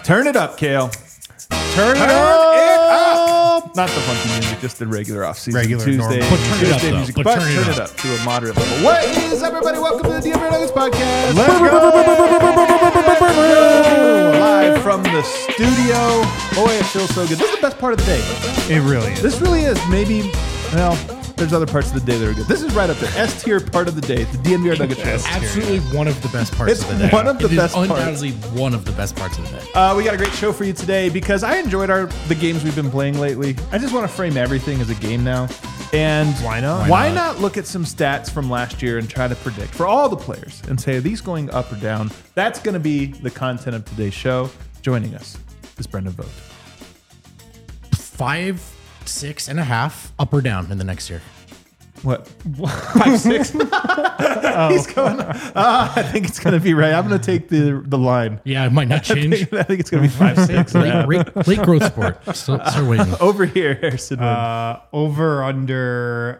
Turn it up, Kale. Turn it up. Not the funky music, just the regular off-season Regular, Tuesday. normal. But turn it up, Tuesday though. music, But but turn it turn it up to a moderate level. What is up, everybody? Welcome to the Denver Nuggets podcast. Let's go. Live from the studio. Boy, it feels so good. This is the best part of the day. It really is. This really is. Maybe, well, there's other parts of the day that are good. This is right up there. S tier part of the day. The DNVR Nuggets show. Absolutely one of the best parts It's of the day. one of the It is best parts. undoubtedly one of the best parts of the day. We got a great show for you today because I enjoyed the games we've been playing lately. I just want to frame everything as a game now. And Why not? Why not look at some stats from last year and try to predict for all the players and say, are these going up or down? That's going to be the content of today's show. Joining us is Brendan Vogt. 5, 6.5 up or down in the next year. What? 5'6"? He's going. I think it's going to be right. I'm going to take the line. Yeah, it might not change. I think it's going to be 5'6". Late growth sport. Start waiting. Over here, Harrison. Over under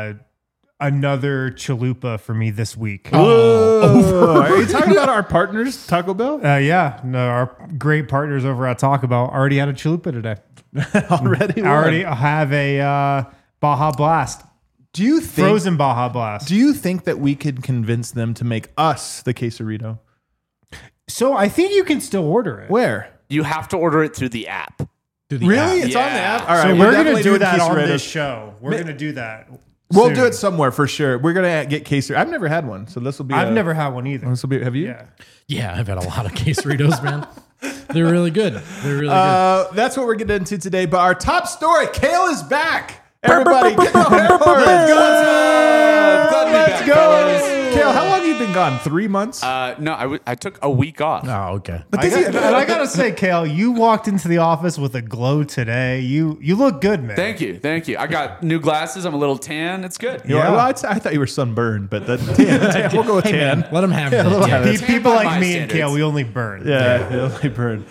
another chalupa for me this week. Oh, are you talking about our partners, Taco Bell? Yeah, no, our great partners over at Taco Bell already had a chalupa today. Already I already have a Baja Blast, Do you think? frozen Baja Blast. Do you think that we could convince them to make us the quesarito? So I think you can still order it. Where? You have to order it through the app. Really? It's on the Yeah. app. All right, So we're we're going definitely to do doing that on quesaritos. this show. We're going to do that. We'll soon. do it somewhere for sure. We're gonna get quesarito. I've never had one, so this will be. I've never had one either. This will be. Have you? Yeah. Yeah, I've had a lot of quesaritos, man. They're really good. They're really That's what we're getting into today. But our top story: Kale is back. Everybody, get the horns. Let's go. Kale, how long have you been gone? 3 months. No, I took a week off. good. Oh, okay. And I gotta say, Kale, you walked into the office with a glow today. You look good, man. Thank you. I got new glasses. I'm a little tan. It's good. You know, well, I thought you were sunburned, but tan. We'll go with tan. Let them have it. little Yeah. habit. People by like my me and standards. Kale, we only burn. Yeah, it'll only burn.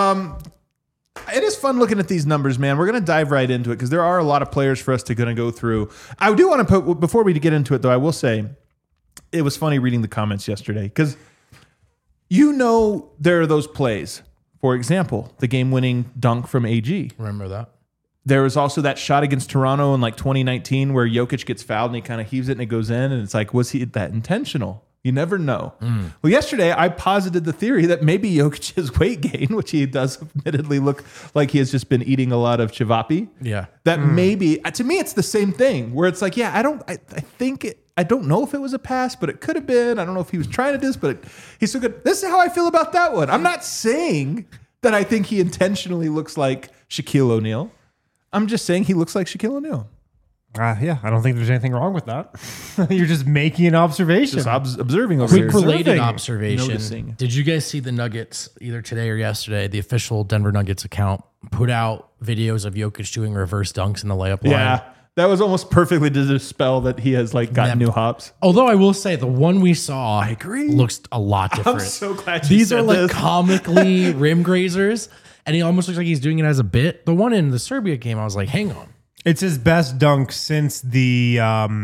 It is fun looking at these numbers, man. We're going to dive right into it because there are a lot of players for us to go through. I do want to put, before we get into it, though, I will say it was funny reading the comments yesterday because there are those plays. For example, the game-winning dunk from AG. Remember that? There was also that shot against Toronto in like 2019 where Jokic gets fouled and he kind of heaves it and it goes in, and it's like, was he that intentional? You never know. Well, yesterday I posited the theory that maybe Jokic's weight gain, which he does admittedly look like he has just been eating a lot of chivapi. Yeah. That maybe, to me, it's the same thing where it's like, yeah, I don't know if it was a pass, but it could have been. I don't know if he was trying to do this, but he's so good. This is how I feel about that one. I'm not saying that I think he intentionally looks like Shaquille O'Neal. I'm just saying he looks like Shaquille O'Neal. Yeah, I don't think there's anything wrong with that. You're just making an observation. Just observing over Quick here. related Observing. observation. Noticing. Did you guys see the Nuggets either today or yesterday? The official Denver Nuggets account put out videos of Jokic doing reverse dunks in the layup line. Yeah, that was almost perfectly to dispel that he has like gotten Yep. new hops. Although I will say the one we saw agree. looks a lot different. so glad you These said are like this. comically rim grazers, and he almost looks like he's doing it as a bit. The one in the Serbia game, I was like, hang on. It's his best dunk since the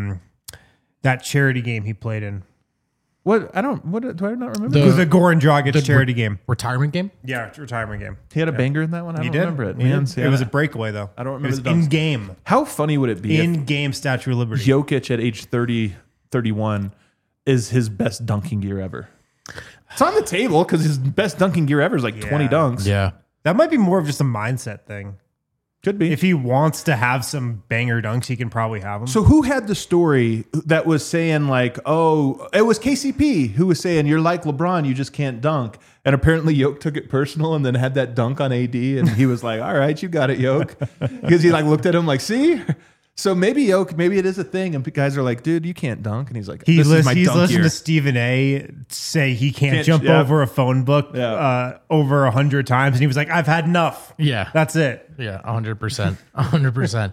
that charity game he played in. What do I not remember? It was the Goran Dragic charity game. Retirement game? Yeah, retirement game. He had a banger in that one. I don't He did. remember it. He Man, did. see, It was a breakaway though. I don't remember It was the dunks. in game. How funny would it be In game Statue of if Liberty. Jokic at age 30, 31 is his best dunking gear ever? It's on the table because his best dunking gear ever is like 20 Yeah. dunks. Yeah. That might be more of just a mindset thing. Could be. If he wants to have some banger dunks, he can probably have them. So who had the story that was saying like, oh, it was KCP who was saying you're like LeBron, you just can't dunk. And apparently Yoke took it personal and then had that dunk on AD and he was like, all right, you got it, Yoke. Because he like looked at him like, see? So maybe Yoke, maybe it is a thing and guys are like, dude, you can't dunk. And he's like, he's this is my listened dunk gear. to Stephen A say he can't jump yeah. over a phone book Yeah. over 100 times. And he was like, I've had enough. Yeah. That's it. Yeah, 100%. 100%.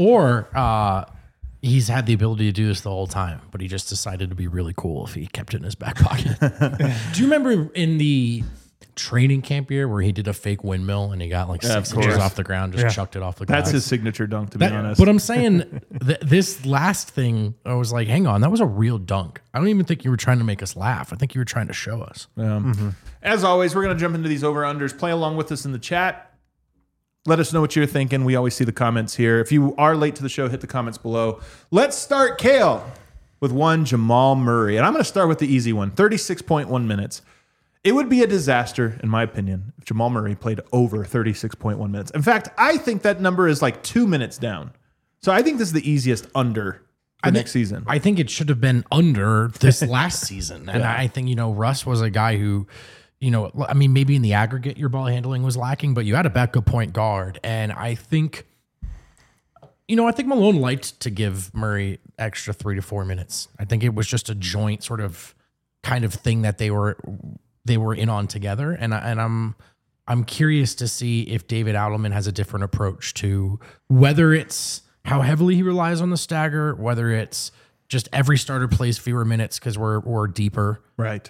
Or he's had the ability to do this the whole time, but he just decided to be really cool if he kept it in his back pocket. Do you remember in the training camp year where he did a fake windmill and he got like 6 of course. inches off the ground, just chucked it off the ground. That's his signature dunk, to be honest. But I'm saying this last thing, I was like, hang on, that was a real dunk. I don't even think you were trying to make us laugh. I think you were trying to show us. As always, we're going to jump into these over-unders. Play along with us in the chat. Let us know what you're thinking. We always see the comments here. If you are late to the show, hit the comments below. Let's start, Kale, with one Jamal Murray. And I'm going to start with the easy one, 36.1 minutes. It would be a disaster, in my opinion, if Jamal Murray played over 36.1 minutes. In fact, I think that number is like 2 minutes down. So I think this is the easiest under for next season. I think it should have been under this last season. And I think, Russ was a guy who, maybe in the aggregate, your ball handling was lacking, but you had a backup point guard. And I think, I think Malone liked to give Murray extra 3 to 4 minutes. I think it was just a joint sort of kind of thing that they were in on together. And I'm curious to see if David Adelman has a different approach to whether it's how heavily he relies on the stagger, whether it's just every starter plays fewer minutes because we're deeper. Right.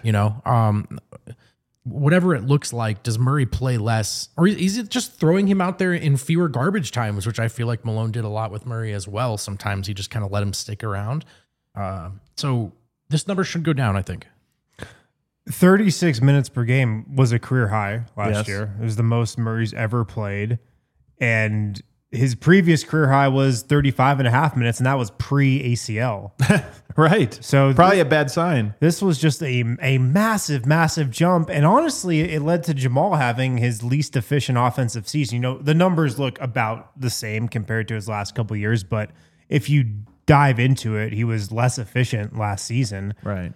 Whatever it looks like, does Murray play less? Or is it just throwing him out there in fewer garbage times, which I feel like Malone did a lot with Murray as well. Sometimes he just kind of let him stick around. So this number should go down, I think. 36 minutes per game was a career high last Yes. year. It was the most Murray's ever played. And his previous career high was 35 and a half minutes, and that was pre-ACL. Right. So probably a bad sign. This was just a massive, massive jump. And honestly, it led to Jamal having his least efficient offensive season. The numbers look about the same compared to his last couple of years, but if you dive into it, he was less efficient last season. Right.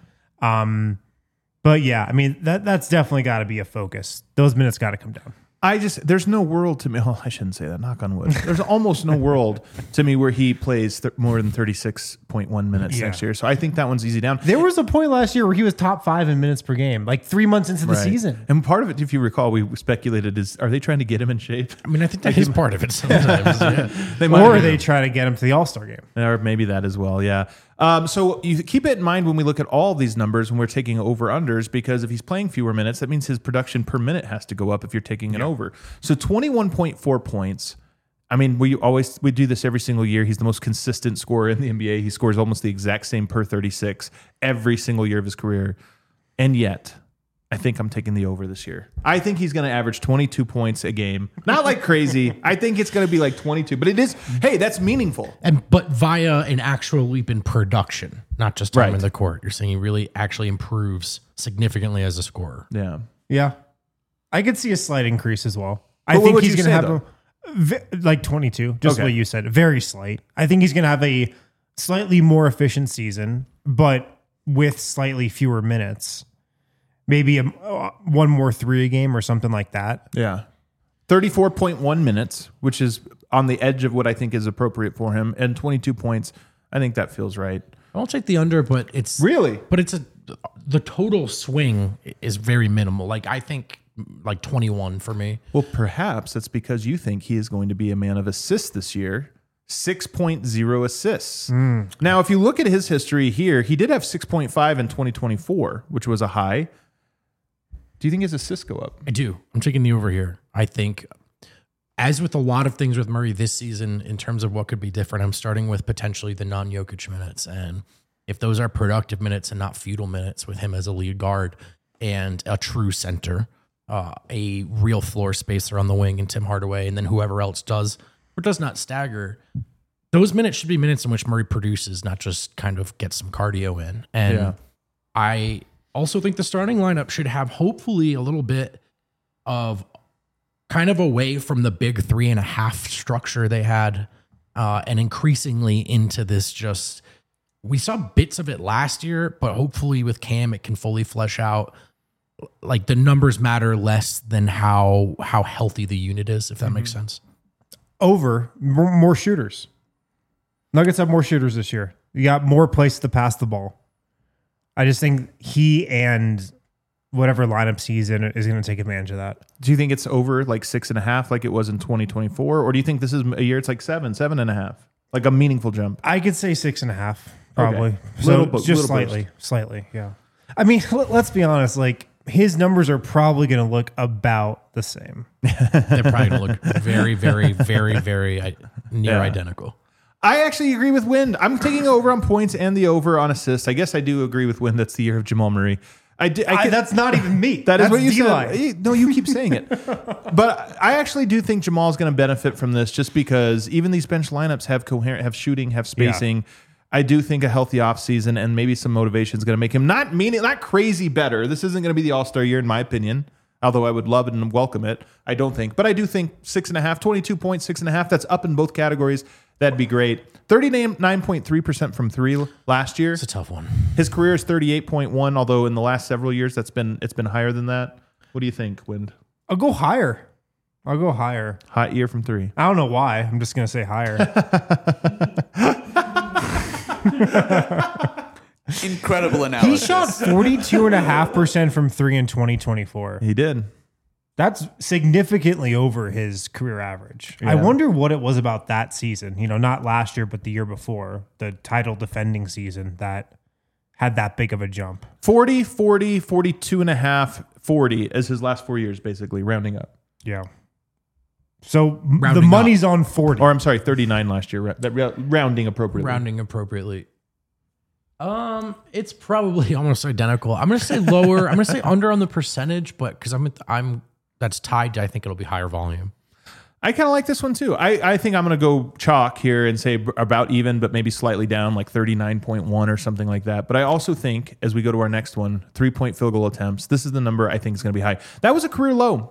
But yeah, that's definitely got to be a focus. Those minutes got to come down. There's no world to me. Oh, I shouldn't say that. Knock on wood. There's almost no world to me where he plays more than 36.1 minutes next year. So I think that one's easy down. There was a point last year where he was top 5 in minutes per game, like 3 months into the season. And part of it, if you recall, we speculated are they trying to get him in shape? I think that is part of it sometimes. Yeah. Or they try to get him to the All-Star game. Or maybe that as well, yeah. So you keep it in mind when we look at all these numbers when we're taking over-unders, because if he's playing fewer minutes, that means his production per minute has to go up if you're taking an over. So 21.4 points. We do this every single year. He's the most consistent scorer in the NBA. He scores almost the exact same per 36 every single year of his career. And yet, I think I'm taking the over this year. I think he's going to average 22 points a game. Not like crazy. I think it's going to be like 22. But it is, hey, that's meaningful. But via an actual leap in production, not just time in the court. You're saying he really actually improves significantly as a scorer. Yeah. Yeah. I could see a slight increase as well. I think he's going to have like 22, just what you said. Very slight. I think he's going to have a slightly more efficient season, but with slightly fewer minutes. Maybe one more 3 a game or something like that. Yeah. 34.1 minutes, which is on the edge of what I think is appropriate for him, and 22 points. I think that feels right. I'll take the under, but it's really, but the total swing is very minimal. Like I think like 21 for me. Well, perhaps that's because you think he is going to be a man of assists this year. 6.0 assists. Now, if you look at his history here, he did have 6.5 in 2024, which was a high. Do you think his assists go up? I do. I'm taking the over here. I think, as with a lot of things with Murray this season, in terms of what could be different, I'm starting with potentially the non-Jokic minutes. And if those are productive minutes and not futile minutes with him as a lead guard and a true center, a real floor spacer on the wing and Tim Hardaway, and then whoever else does or does not stagger, those minutes should be minutes in which Murray produces, not just kind of get some cardio in. And I also think the starting lineup should have hopefully a little bit of kind of away from the big 3.5 structure they had and increasingly into this just, we saw bits of it last year, but hopefully with Cam, it can fully flesh out. Like the numbers matter less than how healthy the unit is, if that makes sense. Over, more shooters. Nuggets have more shooters this year. You got more places to pass the ball. I just think he and whatever lineups he's in is going to take advantage of that. Do you think it's over like 6.5 like it was in 2024? Or do you think this is a year it's like 7.5? Like a meaningful jump? I could say 6.5, probably. Okay. So Little just slightly, yeah. Let's be honest. Like his numbers are probably going to look about the same. They're probably going to look very, very, very, very near identical. I actually agree with Wind. I'm taking over on points and the over on assists. I guess I do agree with Wind. That's the year of Jamal Murray. That's not even me. That's what you said. No, you keep saying it. But I actually do think Jamal's going to benefit from this just because even these bench lineups have coherent, have shooting, have spacing. Yeah. I do think a healthy offseason and maybe some motivation is going to make him not crazy better. This isn't going to be the All-Star year in my opinion, although I would love it and welcome it. I don't think. But I do think 6.5, 22 points, 6.5. That's up in both categories. That'd be great. 39.3% from three last year. It's a tough one. His career is 38.1, although in the last several years it's been higher than that. What do you think, Wind? I'll go higher. Hot year from three. I don't know why. I'm just going to say higher. Incredible analysis. He shot 42.5% from three in 2024. He did. That's significantly over his career average. Yeah. I wonder what it was about that season, not last year, but the year before, the title defending season that had that big of a jump. 40, 42.5, 40 as his last 4 years, basically, rounding up. Yeah. So the money's on 40. Or I'm sorry, 39 last year, rounding appropriately. It's probably almost identical. I'm going to say lower. I'm going to say under on the percentage, but because I'm that's tied to, I think it'll be higher volume. I kind of like this one too. I think I'm going to go chalk here and say about even, but maybe slightly down, like 39.1 or something like that. But I also think as we go to our next one, 3-point field goal attempts, this is the number I think is going to be high. That was a career low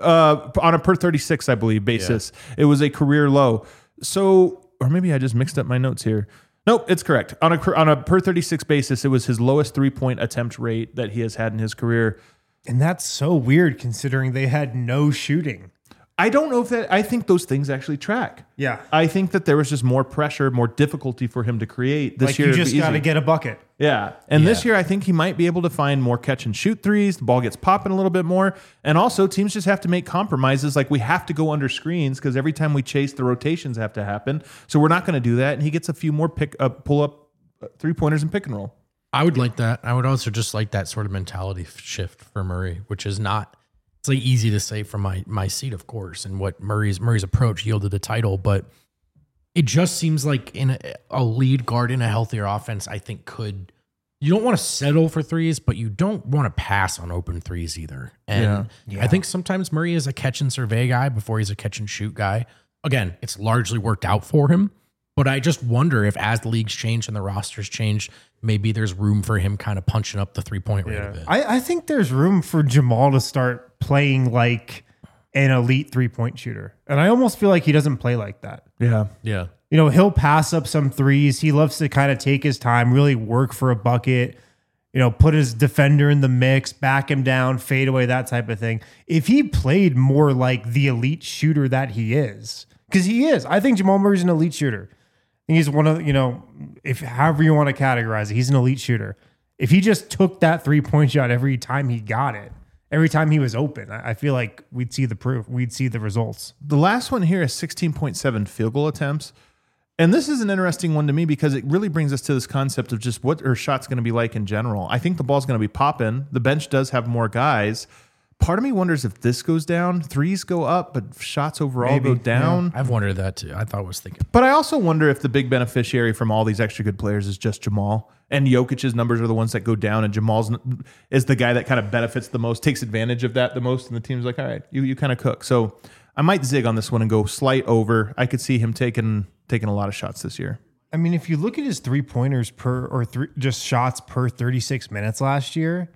on a per 36, I believe, basis. Yeah. It was a career low. So, or maybe I just mixed up my notes here. Nope, it's correct. On a per 36 basis, it was his lowest 3-point attempt rate that he has had in his career. And that's so weird considering they had no shooting. I don't know if that, I think those things actually track. Yeah. I think that there was just more pressure, more difficulty for him to create this year. You just got to get a bucket. Yeah. And this year, I think he might be able to find more catch and shoot threes. The ball gets popping a little bit more. And also, teams just have to make compromises. Like we have to go under screens because every time we chase, the rotations have to happen. So we're not going to do that. And he gets a few more pull up 3-pointers and pick and roll. I would like that. I would also just like that sort of mentality shift for Murray, which is not. It's like easy to say from my seat, of course, and what Murray's approach yielded the title, but it just seems like in a lead guard in a healthier offense, I think you don't want to settle for threes, but you don't want to pass on open threes either. And I think sometimes Murray is a catch and survey guy before he's a catch and shoot guy. Again, it's largely worked out for him, but I just wonder if as the leagues change and the rosters change, maybe there's room for him kind of punching up the 3-point rate a bit. I think there's room for Jamal to start playing like an elite 3-point shooter. And I almost feel like he doesn't play like that. Yeah. Yeah. He'll pass up some threes. He loves to kind of take his time, really work for a bucket, put his defender in the mix, back him down, fade away, that type of thing. If he played more like the elite shooter that he is, because he is. I think Jamal Murray's an elite shooter. He's one of, if however you want to categorize it, he's an elite shooter. If he just took that 3-point shot every time he got it, every time he was open, I feel like we'd see the proof. We'd see the results. The last one here is 16.7 field goal attempts. And this is an interesting one to me because it really brings us to this concept of just what are shots going to be like in general. I think the ball's going to be popping. The bench does have more guys. Part of me wonders if this goes down, threes go up, but shots overall go down. Yeah. I've wondered that too. I was thinking. But I also wonder if the big beneficiary from all these extra good players is just Jamal. And Jokic's numbers are the ones that go down, and Jamal's is the guy that kind of benefits the most, takes advantage of that the most, and the team's like, all right, you kind of cook. So I might zig on this one and go slight over. I could see him taking a lot of shots this year. I mean, if you look at his 3-pointers just shots per 36 minutes last year,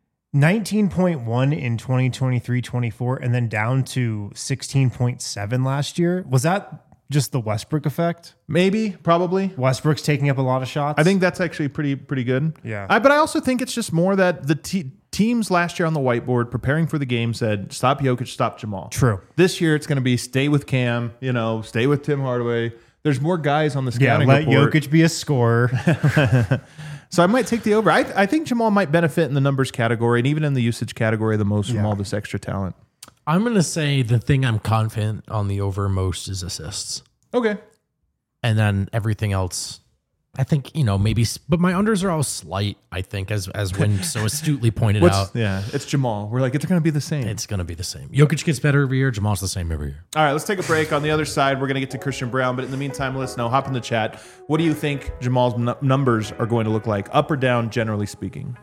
19.1 in 2023-24, and then down to 16.7 last year. Was that just the Westbrook effect? Maybe, probably. Westbrook's taking up a lot of shots. I think that's actually pretty good. Yeah. But I also think it's just more that the teams last year on the whiteboard preparing for the game said, stop Jokic, stop Jamal. True. This year it's going to be stay with Cam, stay with Tim Hardaway. There's more guys on the scouting report. Let Jokic be a scorer. So I might take the over. I think Jamal might benefit in the numbers category and even in the usage category the most from all this extra talent. I'm going to say the thing I'm confident on the over most is assists. Okay. And then everything else, I think, maybe, but my unders are all slight, I think, as Wynn so astutely pointed out. Yeah, it's Jamal. We're like, it's going to be the same. It's going to be the same. Jokic gets better every year. Jamal's the same every year. All right, let's take a break. On the other side, we're going to get to Christian Braun. But in the meantime, let us know. Hop in the chat. What do you think Jamal's numbers are going to look like, up or down, generally speaking?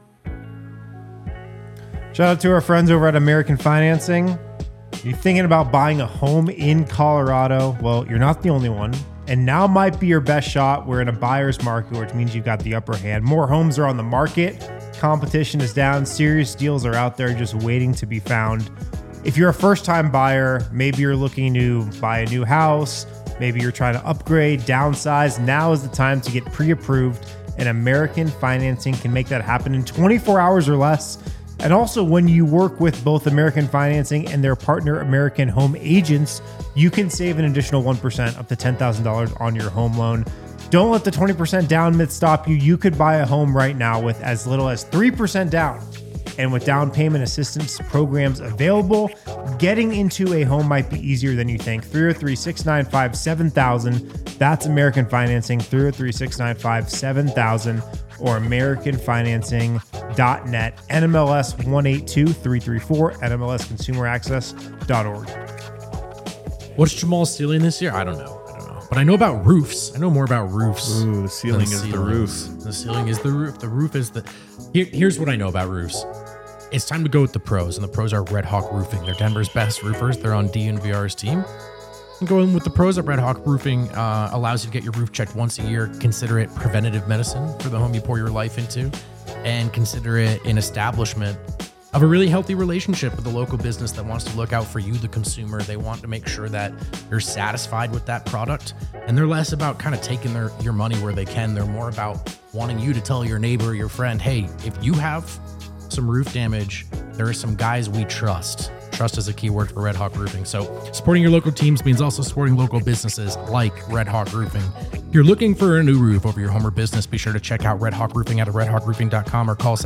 Shout out to our friends over at American Financing. You're thinking about buying a home in Colorado? Well, you're not the only one. And now might be your best shot. We're in a buyer's market, which means you've got the upper hand. More homes are on the market. Competition is down. Serious deals are out there just waiting to be found. If you're a first-time buyer, maybe you're looking to buy a new house. Maybe you're trying to upgrade, downsize. Now is the time to get pre-approved. And American Financing can make that happen in 24 hours or less. And also, when you work with both American Financing and their partner, American Home Agents, you can save an additional 1% up to $10,000 on your home loan. Don't let the 20% down myth stop you. You could buy a home right now with as little as 3% down. And with down payment assistance programs available, getting into a home might be easier than you think. 303-695-7000. That's American Financing, 303-695-7000 or AmericanFinancing.net. NMLS 182334, NMLSConsumerAccess.org. What's Jamal's ceiling this year? I don't know. But I know about roofs. I know more about roofs. Ooh, the ceiling is the roof. The ceiling is the roof. The roof is the... Here's what I know about roofs. It's time to go with the pros, and the pros are Red Hawk Roofing. They're Denver's best roofers. They're on DNVR's team. And going with the pros at Red Hawk Roofing allows you to get your roof checked once a year. Consider it preventative medicine for the home you pour your life into, and consider it an establishment of a really healthy relationship with a local business that wants to look out for you, the consumer. They want to make sure that you're satisfied with that product, and they're less about kind of taking your money where they can. They're more about wanting you to tell your neighbor or your friend, hey, if you have some roof damage, there are some guys we trust. Trust is a key word for Red Hawk Roofing. So supporting your local teams means also supporting local businesses like Red Hawk Roofing. If you're looking for a new roof over your home or business, be sure to check out Red Hawk Roofing at redhawkroofing.com or call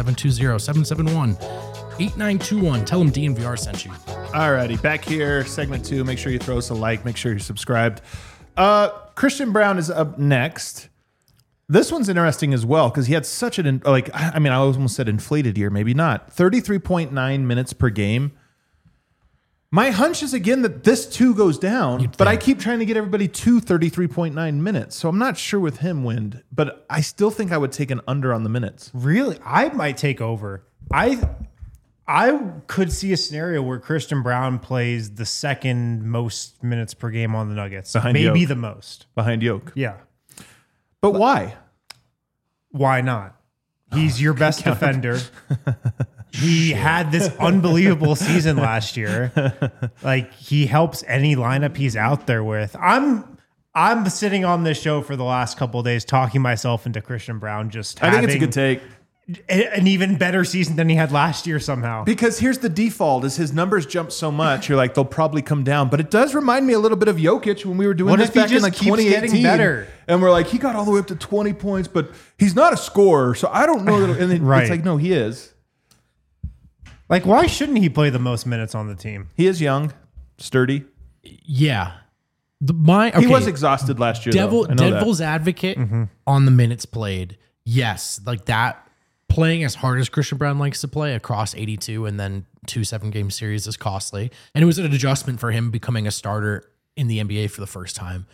720-771-8921. Tell them DNVR sent you. Alrighty, back here, segment 2. Make sure you throw us a like. Make sure you're subscribed. Christian Braun is up next. This one's interesting as well because he had such I almost said inflated year, maybe not. 33.9 minutes per game. My hunch is, again, that this too goes down, but I keep trying to get everybody to 33.9 minutes. So I'm not sure with him, Wind, but I still think I would take an under on the minutes. Really? I might take over. I could see a scenario where Christian Braun plays the second most minutes per game on the Nuggets. Maybe the most. Behind Yoke. Yeah. But why? Why not? He's your best defender. He had this unbelievable season last year. Like, he helps any lineup he's out there with. I'm sitting on this show for the last couple of days talking myself into Christian Braun I think it's a good take. An even better season than he had last year somehow. Because here's the default: is his numbers jump so much, you're like, they'll probably come down. But it does remind me a little bit of Jokic when we were doing this back in like 2018. Better? And we're like, he got all the way up to 20 points, but he's not a scorer, so I don't know. And then It's like, no, he is. Like, why shouldn't he play the most minutes on the team? He is young, sturdy. Yeah. He was exhausted last year. Devil's advocate on the minutes played. Yes, like that. Playing as hard as Christian Braun likes to play across 82 and then 2 7-game series is costly. And it was an adjustment for him becoming a starter in the NBA for the first time.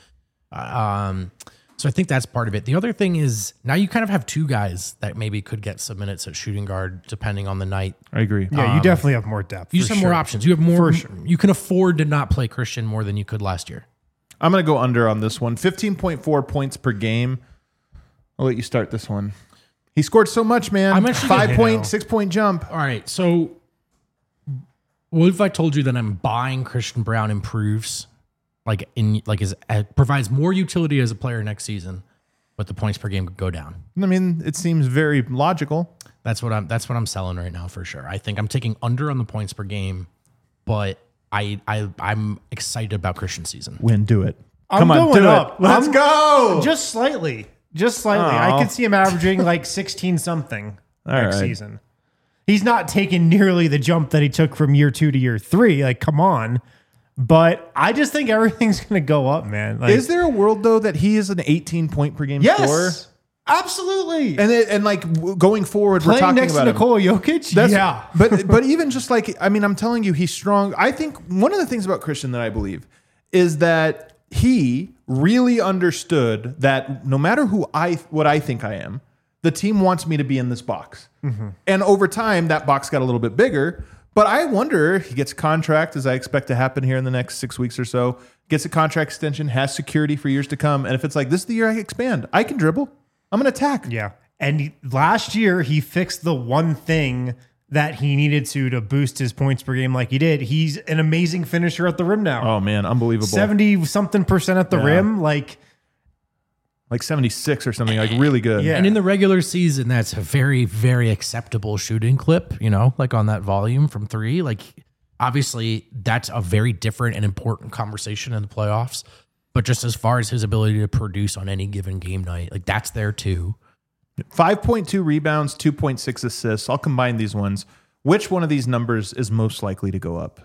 So I think that's part of it. The other thing is now you kind of have two guys that maybe could get some minutes at shooting guard depending on the night. I agree. Yeah, you definitely have more depth. You just have more options. You have more. You can afford to not play Christian more than you could last year. I'm going to go under on this one. 15.4 points per game. I'll let you start this one. He scored so much, man. I'm actually 6-point jump. All right. So what if I told you that I'm buying Christian Braun improves, provides more utility as a player next season, but the points per game could go down? I mean, it seems very logical. That's what I'm selling right now for sure. I think I'm taking under on the points per game, but I'm excited about Christian's season. Win, do it. Come on, do it. Let's go. Just slightly. I could see him averaging like 16-something next season. He's not taking nearly the jump that he took from year 2 to year 3. Like, come on. But I just think everything's going to go up, man. Like, is there a world, though, that he is an 18-point per game scorer? Absolutely. And going forward, we're talking next about to Nikola Jokic. yeah. But even just I'm telling you, he's strong. I think one of the things about Christian that I believe is that he really understood that no matter what I think I am, the team wants me to be in this box. Mm-hmm. And over time, that box got a little bit bigger. But I wonder, he gets a contract, as I expect to happen here in the next 6 weeks or so, gets a contract extension, has security for years to come. And if it's like, this is the year I expand, I can dribble. I'm going to attack. Yeah. And last year, he fixed the one thing that he needed to boost his points per game like he did. He's an amazing finisher at the rim now. Oh, man, unbelievable. 70-something% at the rim. Like 76 or something, like really good. Yeah. And in the regular season, that's a very, very acceptable shooting clip, like on that volume from 3. Like, obviously, that's a very different and important conversation in the playoffs. But just as far as his ability to produce on any given game night, like that's there too. 5.2 rebounds, 2.6 assists. I'll combine these ones. Which one of these numbers is most likely to go up?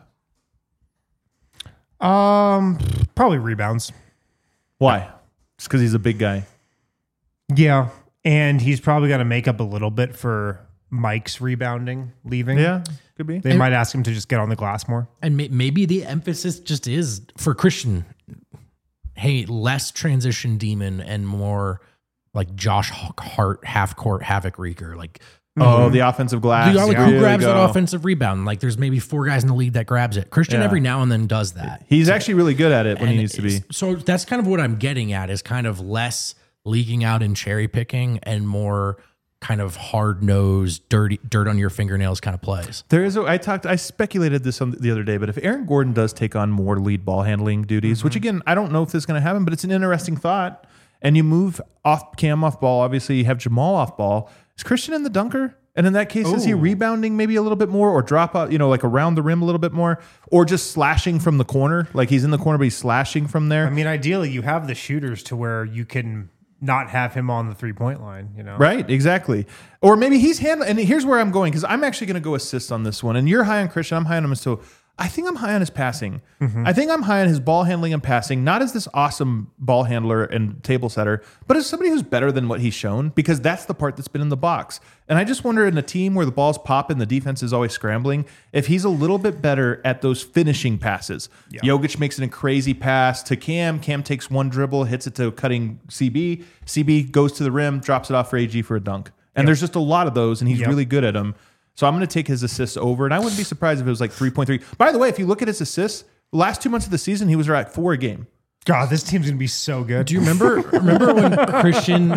Probably rebounds. Why? Just because he's a big guy. Yeah. And he's probably got to make up a little bit for Mike's rebounding, leaving. Yeah, could be. They might ask him to just get on the glass more. And maybe the emphasis just is for Christian, hey, less transition demon and more like Josh Hart, half-court havoc wreaker. Like, the offensive glass. Who grabs that offensive rebound? Like, there's maybe 4 guys in the league that grabs it. Christian every now and then does that. He's actually really good at it when he needs to be. So that's kind of what I'm getting at is kind of less leaking out and cherry picking and more kind of hard-nosed, dirt on your fingernails kind of plays. There is I speculated this the other day, but if Aaron Gordon does take on more lead ball handling duties, which again, I don't know if this is going to happen, but it's an interesting thought, and you move Cam off ball, obviously you have Jamal off ball. Is Christian in the dunker? And in that case, is he rebounding maybe a little bit more or drop out, like around the rim a little bit more, or just slashing from the corner? Like he's in the corner, but he's slashing from there. I mean, ideally you have the shooters to where you can not have him on the 3-point line, Right, exactly. Or maybe he's handling, and here's where I'm going, because I'm actually going to go assist on this one. And you're high on Christian, I'm high on him. So I think I'm high on his passing. Mm-hmm. I think I'm high on his ball handling and passing, not as this awesome ball handler and table setter, but as somebody who's better than what he's shown, because that's the part that's been in the box. And I just wonder, in a team where the ball's pop and the defense is always scrambling, if he's a little bit better at those finishing passes. Yeah. Jokic makes a crazy pass to Cam. Cam takes one dribble, hits it to cutting CB. CB goes to the rim, drops it off for AG for a dunk. And there's just a lot of those, and he's really good at them. So I'm going to take his assists over, and I wouldn't be surprised if it was like 3.3. By the way, if you look at his assists, the last 2 months of the season, he was at 4 a game. God, this team's going to be so good. Do you remember when Christian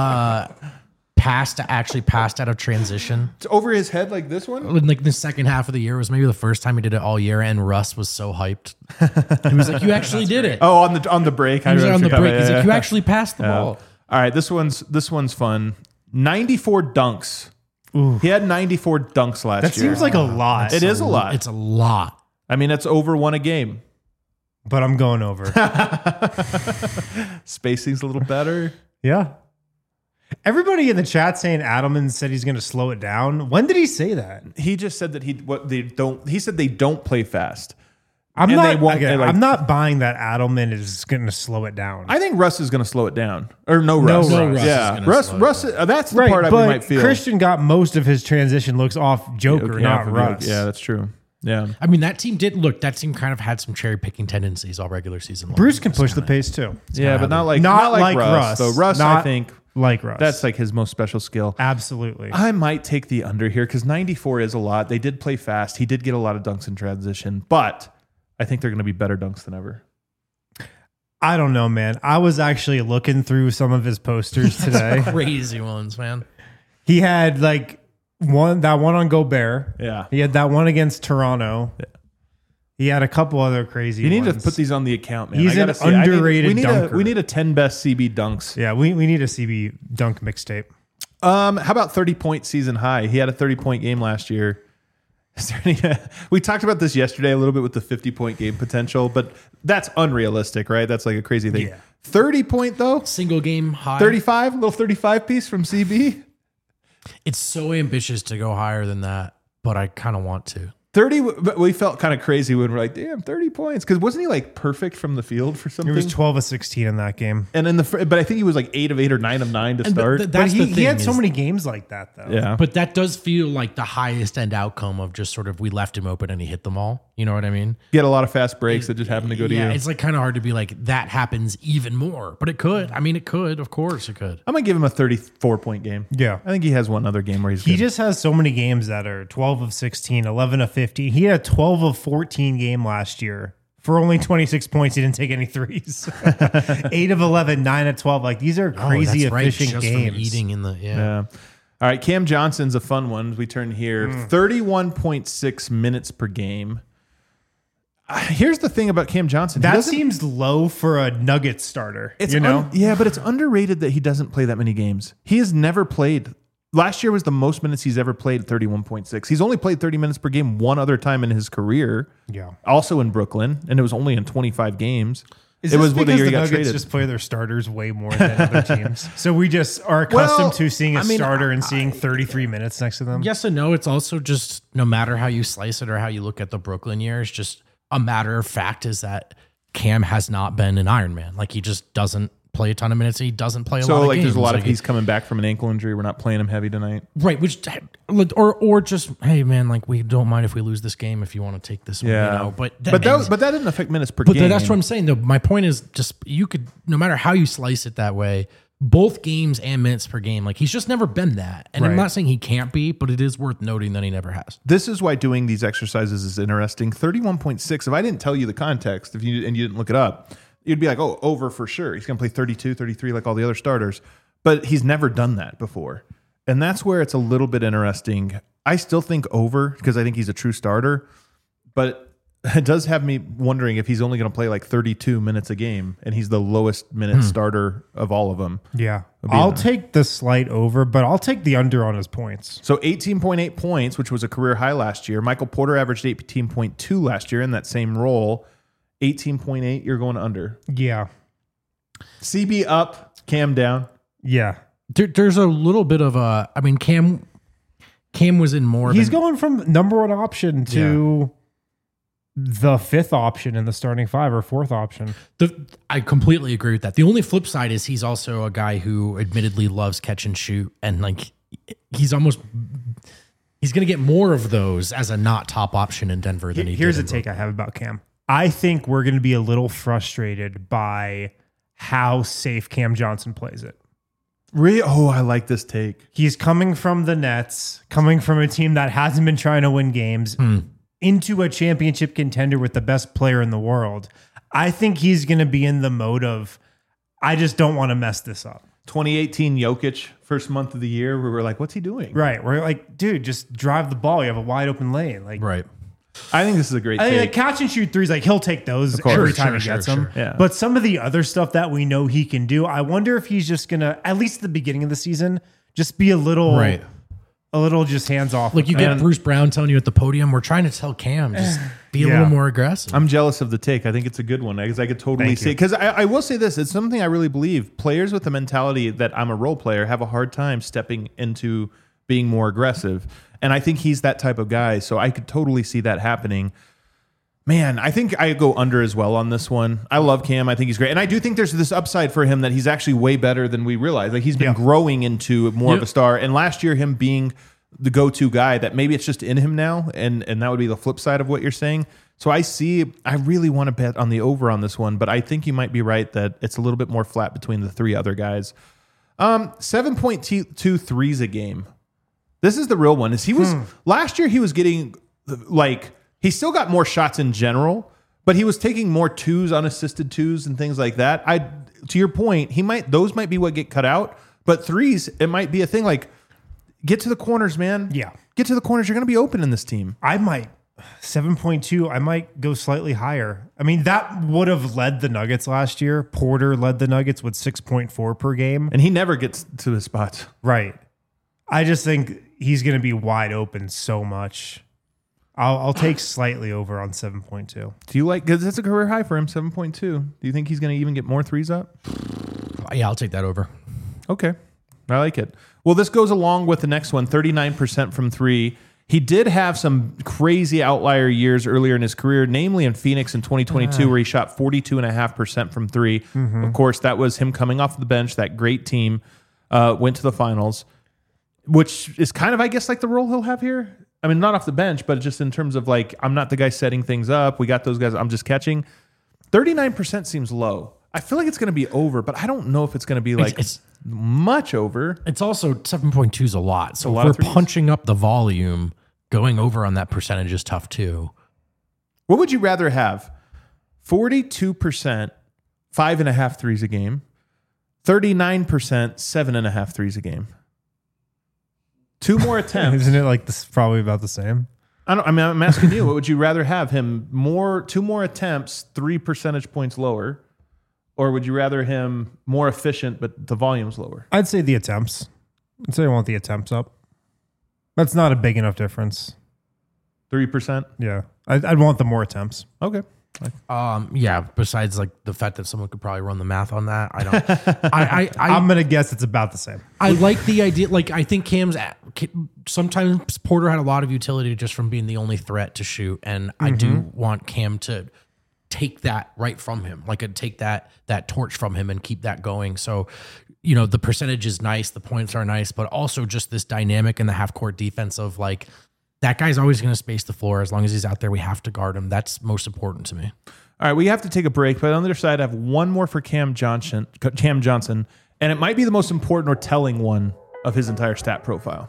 passed out of transition? It's over his head like this one? Like the second half of the year was maybe the first time he did it all year, and Russ was so hyped. He was like, "You actually did it." Oh, on the break. He was on the break. He's like, "You actually passed the ball." All right, this one's fun. 94 dunks. Ooh. He had 94 dunks last year. That seems like a lot. It is a lot. It's a lot. I mean, that's over 1 a game. But I'm going over. Spacing's a little better. Yeah. Everybody in the chat saying Adelman said he's going to slow it down. When did he say that? He just said that he said they don't play fast. I'm not buying that Adelman is going to slow it down. I think Russ is going to slow it down. Or no Russ. Russ. Yeah. Russ, that's the part I might feel. Christian got most of his transition looks off Joker, not Russ. Yeah, that's true. Yeah. I mean, that team kind of had some cherry picking tendencies all regular season. Bruce can push the pace too. Yeah, but not like Russ. So Russ, I think, like Russ. That's like his most special skill. Absolutely. I might take the under here because 94 is a lot. They did play fast. He did get a lot of dunks in transition, but I think they're going to be better dunks than ever. I don't know, man. I was actually looking through some of his posters today. Crazy ones, man. He had like one on Gobert. Yeah. He had that one against Toronto. Yeah. He had a couple other crazy ones. You need to put these on the account, man. He's an underrated dunker. We need a 10 best CB dunks. Yeah, we need a CB dunk mixtape. How about 30-point season high? He had a 30-point game last year. We talked about this yesterday a little bit with the 50-point game potential, but that's unrealistic, right? That's like a crazy thing. Yeah. 30-point though? Single game high. 35? A little 35 piece from CB? It's so ambitious to go higher than that, but I kind of want to. 30, but we felt kind of crazy when we're like, damn, 30 points. Because wasn't he like perfect from the field for something? He was 12 of 16 in that game. And in but I think he was like 8 of 8 or 9 of 9 to start. But he had so many games like that, though. Yeah. But that does feel like the highest end outcome of just sort of we left him open and he hit them all. You know what I mean? Get a lot of fast breaks that just happen to go to you. Yeah, it's like kind of hard to be like, that happens even more. But it could. I mean, it could. Of course it could. I'm going to give him a 34-point game. Yeah. I think he has one other game where he's He good. just has so many games that are 12 of 16, 11 of 15. He had a 12 of 14 game last year. For only 26 points, he didn't take any threes. 8 of 11, 9 of 12. Like, these are crazy efficient just games. From eating in the, Yeah. All right, Cam Johnson's a fun one. We turn here. 31.6 minutes per game. Here's the thing about Cam Johnson. That seems low for a Nuggets starter. It's you know? yeah, but it's underrated that he doesn't play that many games. He has never played. Last year was the most minutes he's ever played, 31.6. He's only played 30 minutes per game one other time in his career. Yeah. Also in Brooklyn, and it was only in 25 games. It was because the year the he got Nuggets traded. just play their starters way more than other teams. So we just are accustomed to seeing a starter and seeing 33 minutes next to them. Yes and no. It's also just no matter how you slice it or how you look at the Brooklyn years, just a matter of fact is that Cam has not been an Iron Man. Like he just doesn't play a ton of minutes. He doesn't play a lot of games. So there's a lot of like he's coming back from an ankle injury. We're not playing him heavy tonight. right. Which or just hey man, like we don't mind if we lose this game if you want to take this one. Yeah. You know? But That didn't affect minutes per But game. that's what I'm saying. Though my point is just you could no matter how you slice it that way, both games and minutes per game. Like he's just never been that. And I'm Right. not saying he can't be, but it is worth noting that he never has. This is why doing these exercises is interesting. 31.6. If I didn't tell you the context, and you didn't look it up, you'd be like, oh, over for sure. He's going to play 32, 33 like all the other starters. But he's never done that before. And that's where it's a little bit interesting. I still think over because I think he's a true starter. But it does have me wondering if he's only going to play like 32 minutes a game and he's the lowest minute starter of all of them. Yeah. I'll take the slight over, but I'll take the under on his points. So 18.8 points, which was a career high last year. Michael Porter averaged 18.2 last year in that same role. 18.8, you're going under. Yeah. CB up, Cam down. Yeah. There's a little bit of a. I mean, Cam was in more. He's going from number one option to the fifth option in the starting five or fourth option. I completely agree with that. The only flip side is he's also a guy who admittedly loves catch and shoot, and like he's going to get more of those as a not top option in Denver than he did. Here's a take I have about Cam. I think we're going to be a little frustrated by how safe Cam Johnson plays it. Really? Oh, I like this take. He's coming from the Nets, coming from a team that hasn't been trying to win games, into a championship contender with the best player in the world. I think he's going to be in the mode of, I just don't want to mess this up. 2018 Jokic, first month of the year, where we're like, what's he doing? Right. We're like, dude, just drive the ball. You have a wide open lane. Like, Right. I think this is a great I think take. like catch and shoot threes, like he'll take those course. every time Sure, he gets sure, them. sure. Yeah. But some of the other stuff that we know he can do, I wonder if he's just gonna, at least at the beginning of the season, just be a little just hands off. Like you get Bruce Brown telling you at the podium, we're trying to tell Cam, just be a little more aggressive. I'm jealous of the take. I think it's a good one because I could totally see it. Because I will say this, it's something I really believe. Players with the mentality that I'm a role player have a hard time stepping into being more aggressive. And I think he's that type of guy. So I could totally see that happening. Man, I think I go under as well on this one. I love Cam. I think he's great. And I do think there's this upside for him that he's actually way better than we realize. Like he's been growing into more of a star. And last year, him being the go-to guy, that maybe it's just in him now. And that would be the flip side of what you're saying. So I really want to bet on the over on this one, but I think you might be right that it's a little bit more flat between the three other guys. 7.2 threes a game. This is the real one. Last year he was getting like, he still got more shots in general, but he was taking more twos, unassisted twos and things like that. To your point, those might be what get cut out, but threes, it might be a thing. Like get to the corners, man. Yeah. Get to the corners. You're going to be open in this team. I might 7.2. I might go slightly higher. I mean, that would have led the Nuggets last year. Porter led the Nuggets with 6.4 per game. And he never gets to his spots. Right. I just think he's going to be wide open so much. I'll take slightly over on 7.2. Do you like, because that's a career high for him, 7.2. Do you think he's going to even get more threes up? Yeah, I'll take that over. Okay. I like it. Well, this goes along with the next one, 39% from three. He did have some crazy outlier years earlier in his career, namely in Phoenix in 2022, where he shot 42.5% from three. Mm-hmm. Of course, that was him coming off the bench. That great team went to the finals, which is kind of, I guess, like the role he'll have here. I mean, not off the bench, but just in terms of like, I'm not the guy setting things up. We got those guys. I'm just catching. 39% seems low. I feel like it's going to be over, but I don't know if it's going to be like it's much over. It's also 7.2 is a lot. So if we're punching up the volume, going over on that percentage is tough too. What would you rather have? 42%, 5.5 threes a game, 39%, 7.5 threes a game. 2 more attempts. Isn't it like this? Probably about the same. I'm asking you, what would you rather have him 2 more attempts, 3 percentage points lower, or would you rather him more efficient but the volume's lower? I'd say the attempts. I'd say I want the attempts up. That's not a big enough difference. 3%? Yeah, I'd want the more attempts. Okay. Yeah. Besides, like the fact that someone could probably run the math on that, I don't. I'm gonna guess it's about the same. I like the idea. Like I think sometimes Porter had a lot of utility just from being the only threat to shoot, and I do want Cam to take that right from him, like take that torch from him and keep that going. So, you know, the percentage is nice, the points are nice, but also just this dynamic in the half court defense of like, that guy's always going to space the floor. As long as he's out there, we have to guard him. That's most important to me. All right, we have to take a break, but on the other side, I have one more for Cam Johnson, and it might be the most important or telling one of his entire stat profile.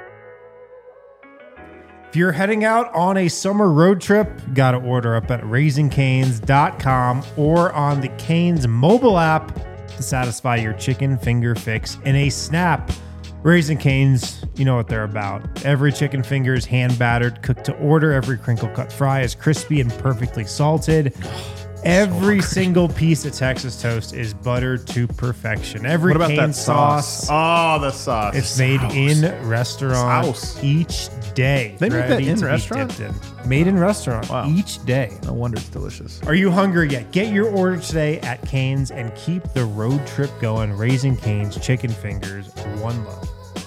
If you're heading out on a summer road trip, got to order up at RaisingCane's.com or on the Cane's mobile app to satisfy your chicken finger fix in a snap. Raising Cane's, you know what they're about. Every chicken finger is hand battered, cooked to order. Every crinkle cut fry is crispy and perfectly salted. Every single piece of Texas toast is buttered to perfection. Every what about Cane that sauce? Oh, the sauce. It's made in restaurant each day. They make that in restaurant? Made in restaurant each day. No wonder it's delicious. Are you hungry yet? Get your order today at Cane's and keep the road trip going. Raising Cane's chicken fingers, one love.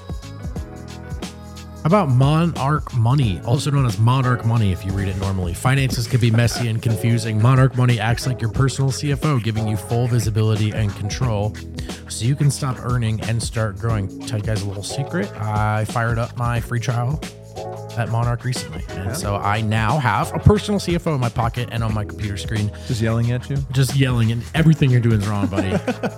How about Monarch Money, also known as Monarch Money if you read it normally? Finances can be messy and confusing. Monarch Money acts like your personal CFO, giving you full visibility and control so you can stop earning and start growing. Tell you guys a little secret. I fired up my free trial at Monarch recently. And so I now have a personal CFO in my pocket and on my computer screen. Just yelling at you? Just yelling, and everything you're doing is wrong, buddy.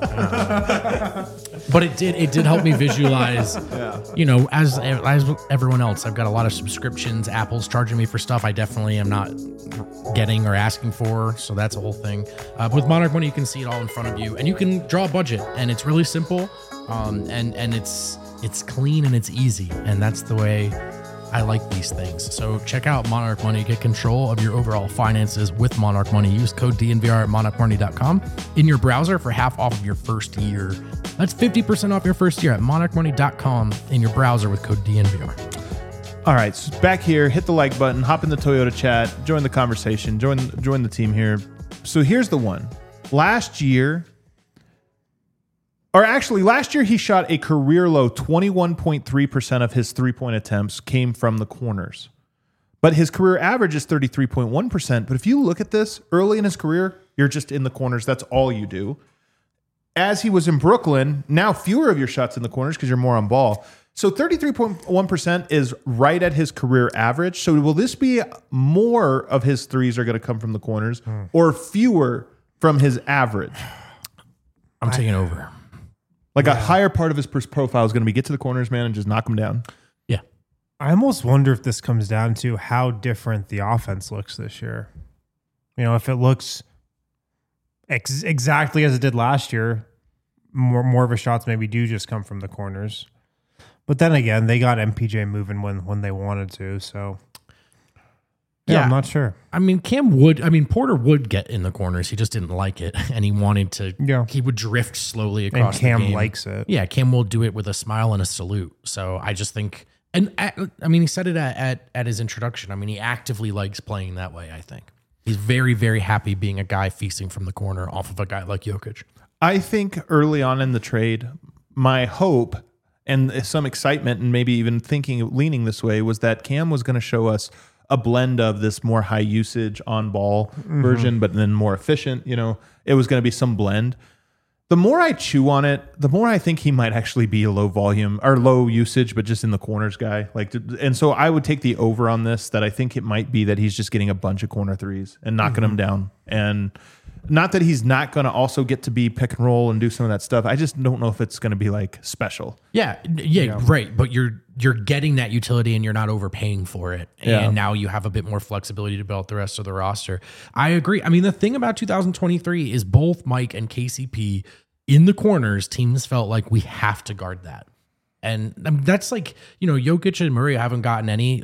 But it did help me visualize, you know, as everyone else, I've got a lot of subscriptions. Apple's charging me for stuff I definitely am not getting or asking for. So that's a whole thing. With Monarch Money, you can see it all in front of you and you can draw a budget, and it's really simple. And it's clean and it's easy. And that's the way I like these things. So check out Monarch Money. Get control of your overall finances with Monarch Money. Use code DNVR at monarchmoney.com in your browser for half off of your first year. That's 50% off your first year at monarchmoney.com in your browser with code DNVR. All right, so back here, hit the like button, hop in the Toyota chat, join the conversation, join the team here. So here's the one. Last year he shot a career low 21.3% of his three-point attempts came from the corners. But his career average is 33.1%. But if you look at this, early in his career, you're just in the corners. That's all you do. As he was in Brooklyn, now fewer of your shots in the corners because you're more on ball. So 33.1% is right at his career average. So will this be more of his threes are going to come from the corners or fewer from his average? I'm taking over. Like a higher part of his profile is going to be get to the corners, man, and just knock them down. Yeah. I almost wonder if this comes down to how different the offense looks this year. You know, if it looks exactly as it did last year, more of his shots maybe do just come from the corners. But then again, they got MPJ moving when they wanted to, so... Yeah, I'm not sure. I mean, Porter would get in the corners. He just didn't like it, and he wanted to. Yeah. He would drift slowly across. And Cam the game. likes it. Yeah, Cam will do it with a smile and a salute. So I just think, and I mean, he said it at his introduction. I mean, he actively likes playing that way. I think he's very, very happy being a guy feasting from the corner off of a guy like Jokic. I think early on in the trade, my hope and some excitement, and maybe even leaning this way, was that Cam was going to show us a blend of this more high usage on ball version, but then more efficient. It was going to be some blend. The more I chew on it, the more I think he might actually be a low volume or low usage, but just in the corners guy. And so I would take the over on this, that I think it might be that he's just getting a bunch of corner threes and knocking them down. And not that he's not going to also get to be pick and roll and do some of that stuff. I just don't know if it's going to be like special. Yeah, right. But you're getting that utility and you're not overpaying for it. And now you have a bit more flexibility to build the rest of the roster. I agree. I mean, the thing about 2023 is both Mike and KCP in the corners, teams felt like we have to guard that. And that's like, Jokic and Murray haven't gotten any.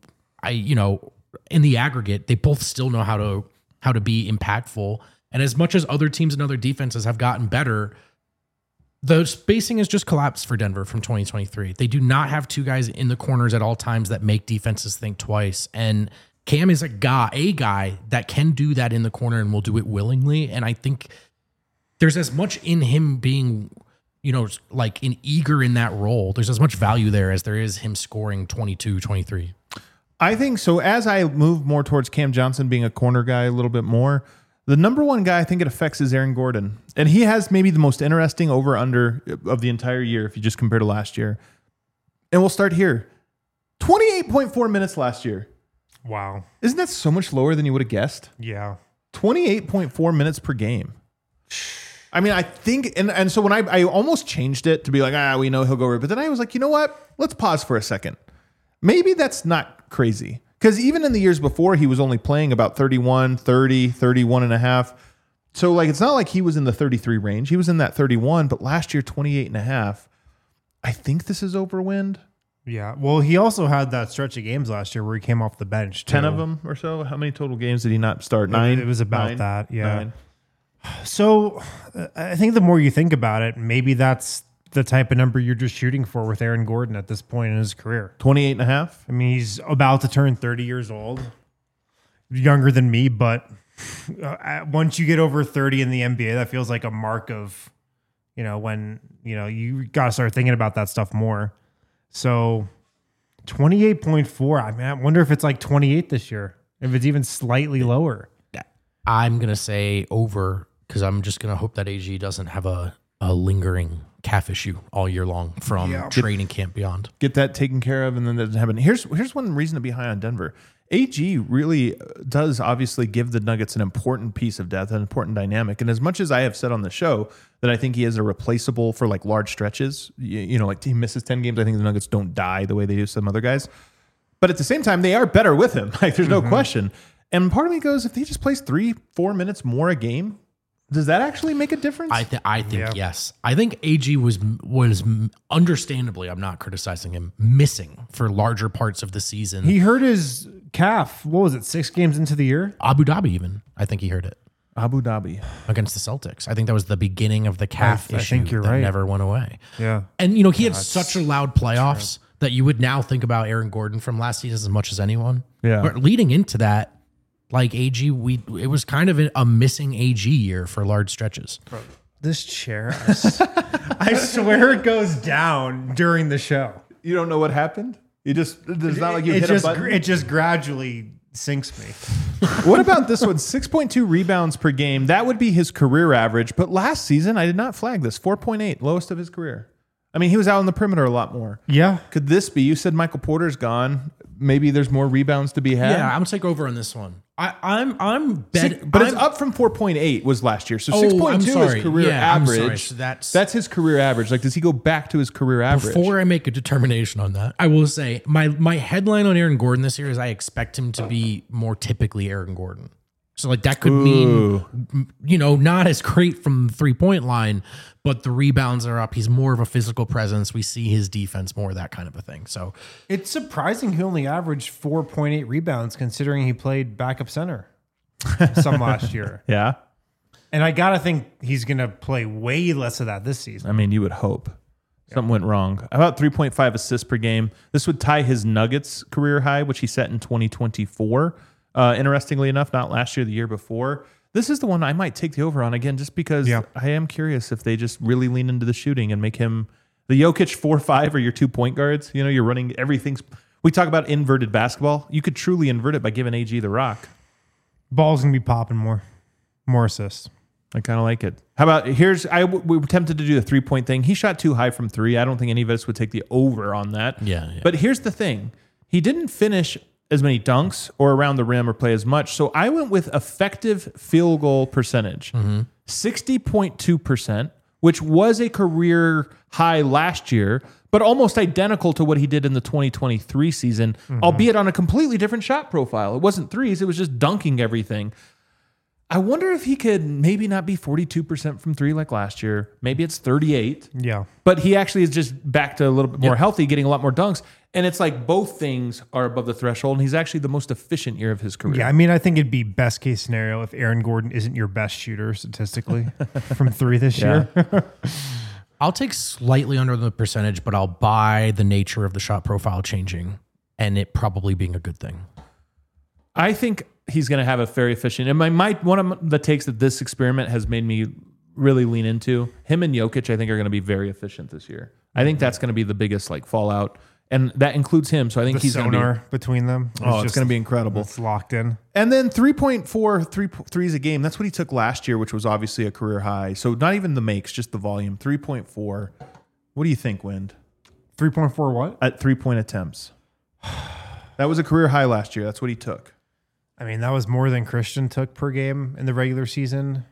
In the aggregate, they both still know how to be impactful. And as much as other teams and other defenses have gotten better, the spacing has just collapsed for Denver from 2023. They do not have two guys in the corners at all times that make defenses think twice. And Cam is a guy that can do that in the corner and will do it willingly. And I think there's as much in him being, like an eager in that role. There's as much value there as there is him scoring 22, 23. I think so. As I move more towards Cam Johnson being a corner guy a little bit more, the number one guy I think it affects is Aaron Gordon. And he has maybe the most interesting over-under of the entire year if you just compare to last year. And we'll start here. 28.4 minutes last year. Wow. Isn't that so much lower than you would have guessed? Yeah. 28.4 minutes per game. I mean, I think, and so when I almost changed it to be like, we know he'll go over, but then I was like, you know what? Let's pause for a second. Maybe that's not crazy. Because even in the years before, he was only playing about 31, 30, 31 and a half. So it's not like he was in the 33 range. He was in that 31, but last year, 28 and a half. I think this is overwind. Yeah. Well, he also had that stretch of games last year where he came off the bench. 10 of them or so. How many total games did he not start? 9? It was about that. Yeah. 9. So I think the more you think about it, maybe that's the type of number you're just shooting for with Aaron Gordon at this point in his career. 28 and a half. I mean, he's about to turn 30 years old, younger than me, but once you get over 30 in the NBA, that feels like a mark of, when, you got to start thinking about that stuff more. So 28.4, I mean, I wonder if it's like 28 this year, if it's even slightly lower. I'm going to say over because I'm just going to hope that AG doesn't have a lingering calf issue all year long from training camp beyond. Get that taken care of, and then that doesn't happen. Here's one reason to be high on Denver. AG really does obviously give the Nuggets an important piece of depth, an important dynamic. And as much as I have said on the show that I think he is a replaceable for like large stretches, like he misses 10 games, I think the Nuggets don't die the way they do some other guys. But at the same time, they are better with him. Like there's no question. And part of me goes, if he just plays 3-4 minutes more a game, does that actually make a difference? I think yes. I think AG was understandably, I'm not criticizing him, missing for larger parts of the season. He hurt his calf. What was it, 6 games into the year? Abu Dhabi even. I think he hurt it. Abu Dhabi. Against the Celtics. I think that was the beginning of the calf issue I think you're that right. never went away. Yeah. And, he had such a loud playoffs that you would now think about Aaron Gordon from last season as much as anyone. Yeah. But leading into that, like AG, it was kind of a missing AG year for large stretches. Bro, this chair, I swear it goes down during the show. You don't know what happened? It's not like you hit a button? It just gradually sinks me. What about this one? 6.2 rebounds per game. That would be his career average. But last season, I did not flag this. 4.8, lowest of his career. I mean, he was out on the perimeter a lot more. Yeah. Could this be? You said Michael Porter's gone. Maybe there's more rebounds to be had. Yeah, I'm gonna take over on this one. It's up from 4.8 was last year. So 6.2 is career average. So that's his career average. Like, does he go back to his career average? Before I make a determination on that, I will say my headline on Aaron Gordon this year is I expect him to be more typically Aaron Gordon. So like that could mean, not as great from the 3-point line, but the rebounds are up. He's more of a physical presence. We see his defense more, that kind of a thing. So it's surprising he only averaged 4.8 rebounds considering he played backup center some last year. Yeah. And I got to think he's going to play way less of that this season. I mean, you would hope. Something went wrong. About 3.5 assists per game. This would tie his Nuggets career high, which he set in 2024. Interestingly enough, not last year, the year before. This is the one I might take the over on again, just because I am curious if they just really lean into the shooting and make him. The Jokic 4-5 are your 2-point guards. You know, you're running everything's. We talk about inverted basketball. You could truly invert it by giving AG the rock. Ball's gonna be popping more assists. I kind of like it. How about we were tempted to do the 3-point thing. He shot too high from 3. I don't think any of us would take the over on that. Yeah. But here's the thing. He didn't finish as many dunks or around the rim or play as much. So I went with effective field goal percentage, 60.2%, which was a career high last year, but almost identical to what he did in the 2023 season, albeit on a completely different shot profile. It wasn't threes. It was just dunking everything. I wonder if he could maybe not be 42% from 3 like last year. Maybe it's 38. Yeah. But he actually is just back to a little bit more healthy, getting a lot more dunks. And it's like both things are above the threshold, and he's actually the most efficient year of his career. Yeah, I mean, I think it'd be best case scenario if Aaron Gordon isn't your best shooter statistically from 3 this year. I'll take slightly under the percentage, but I'll buy the nature of the shot profile changing and it probably being a good thing. I think he's going to have a very efficient. And one of the takes that this experiment has made me really lean into, him and Jokic, I think are going to be very efficient this year. I think that's going to be the biggest fallout, and that includes him. So I think he's going to be between them. It's going to be incredible. It's locked in. And then 3.4 threes a game. That's what he took last year, which was obviously a career high. So not even the makes, just the volume. 3.4. What do you think, Wind? 3.4 what? At 3-point attempts. That was a career high last year. That's what he took. I mean, that was more than Christian took per game in the regular season.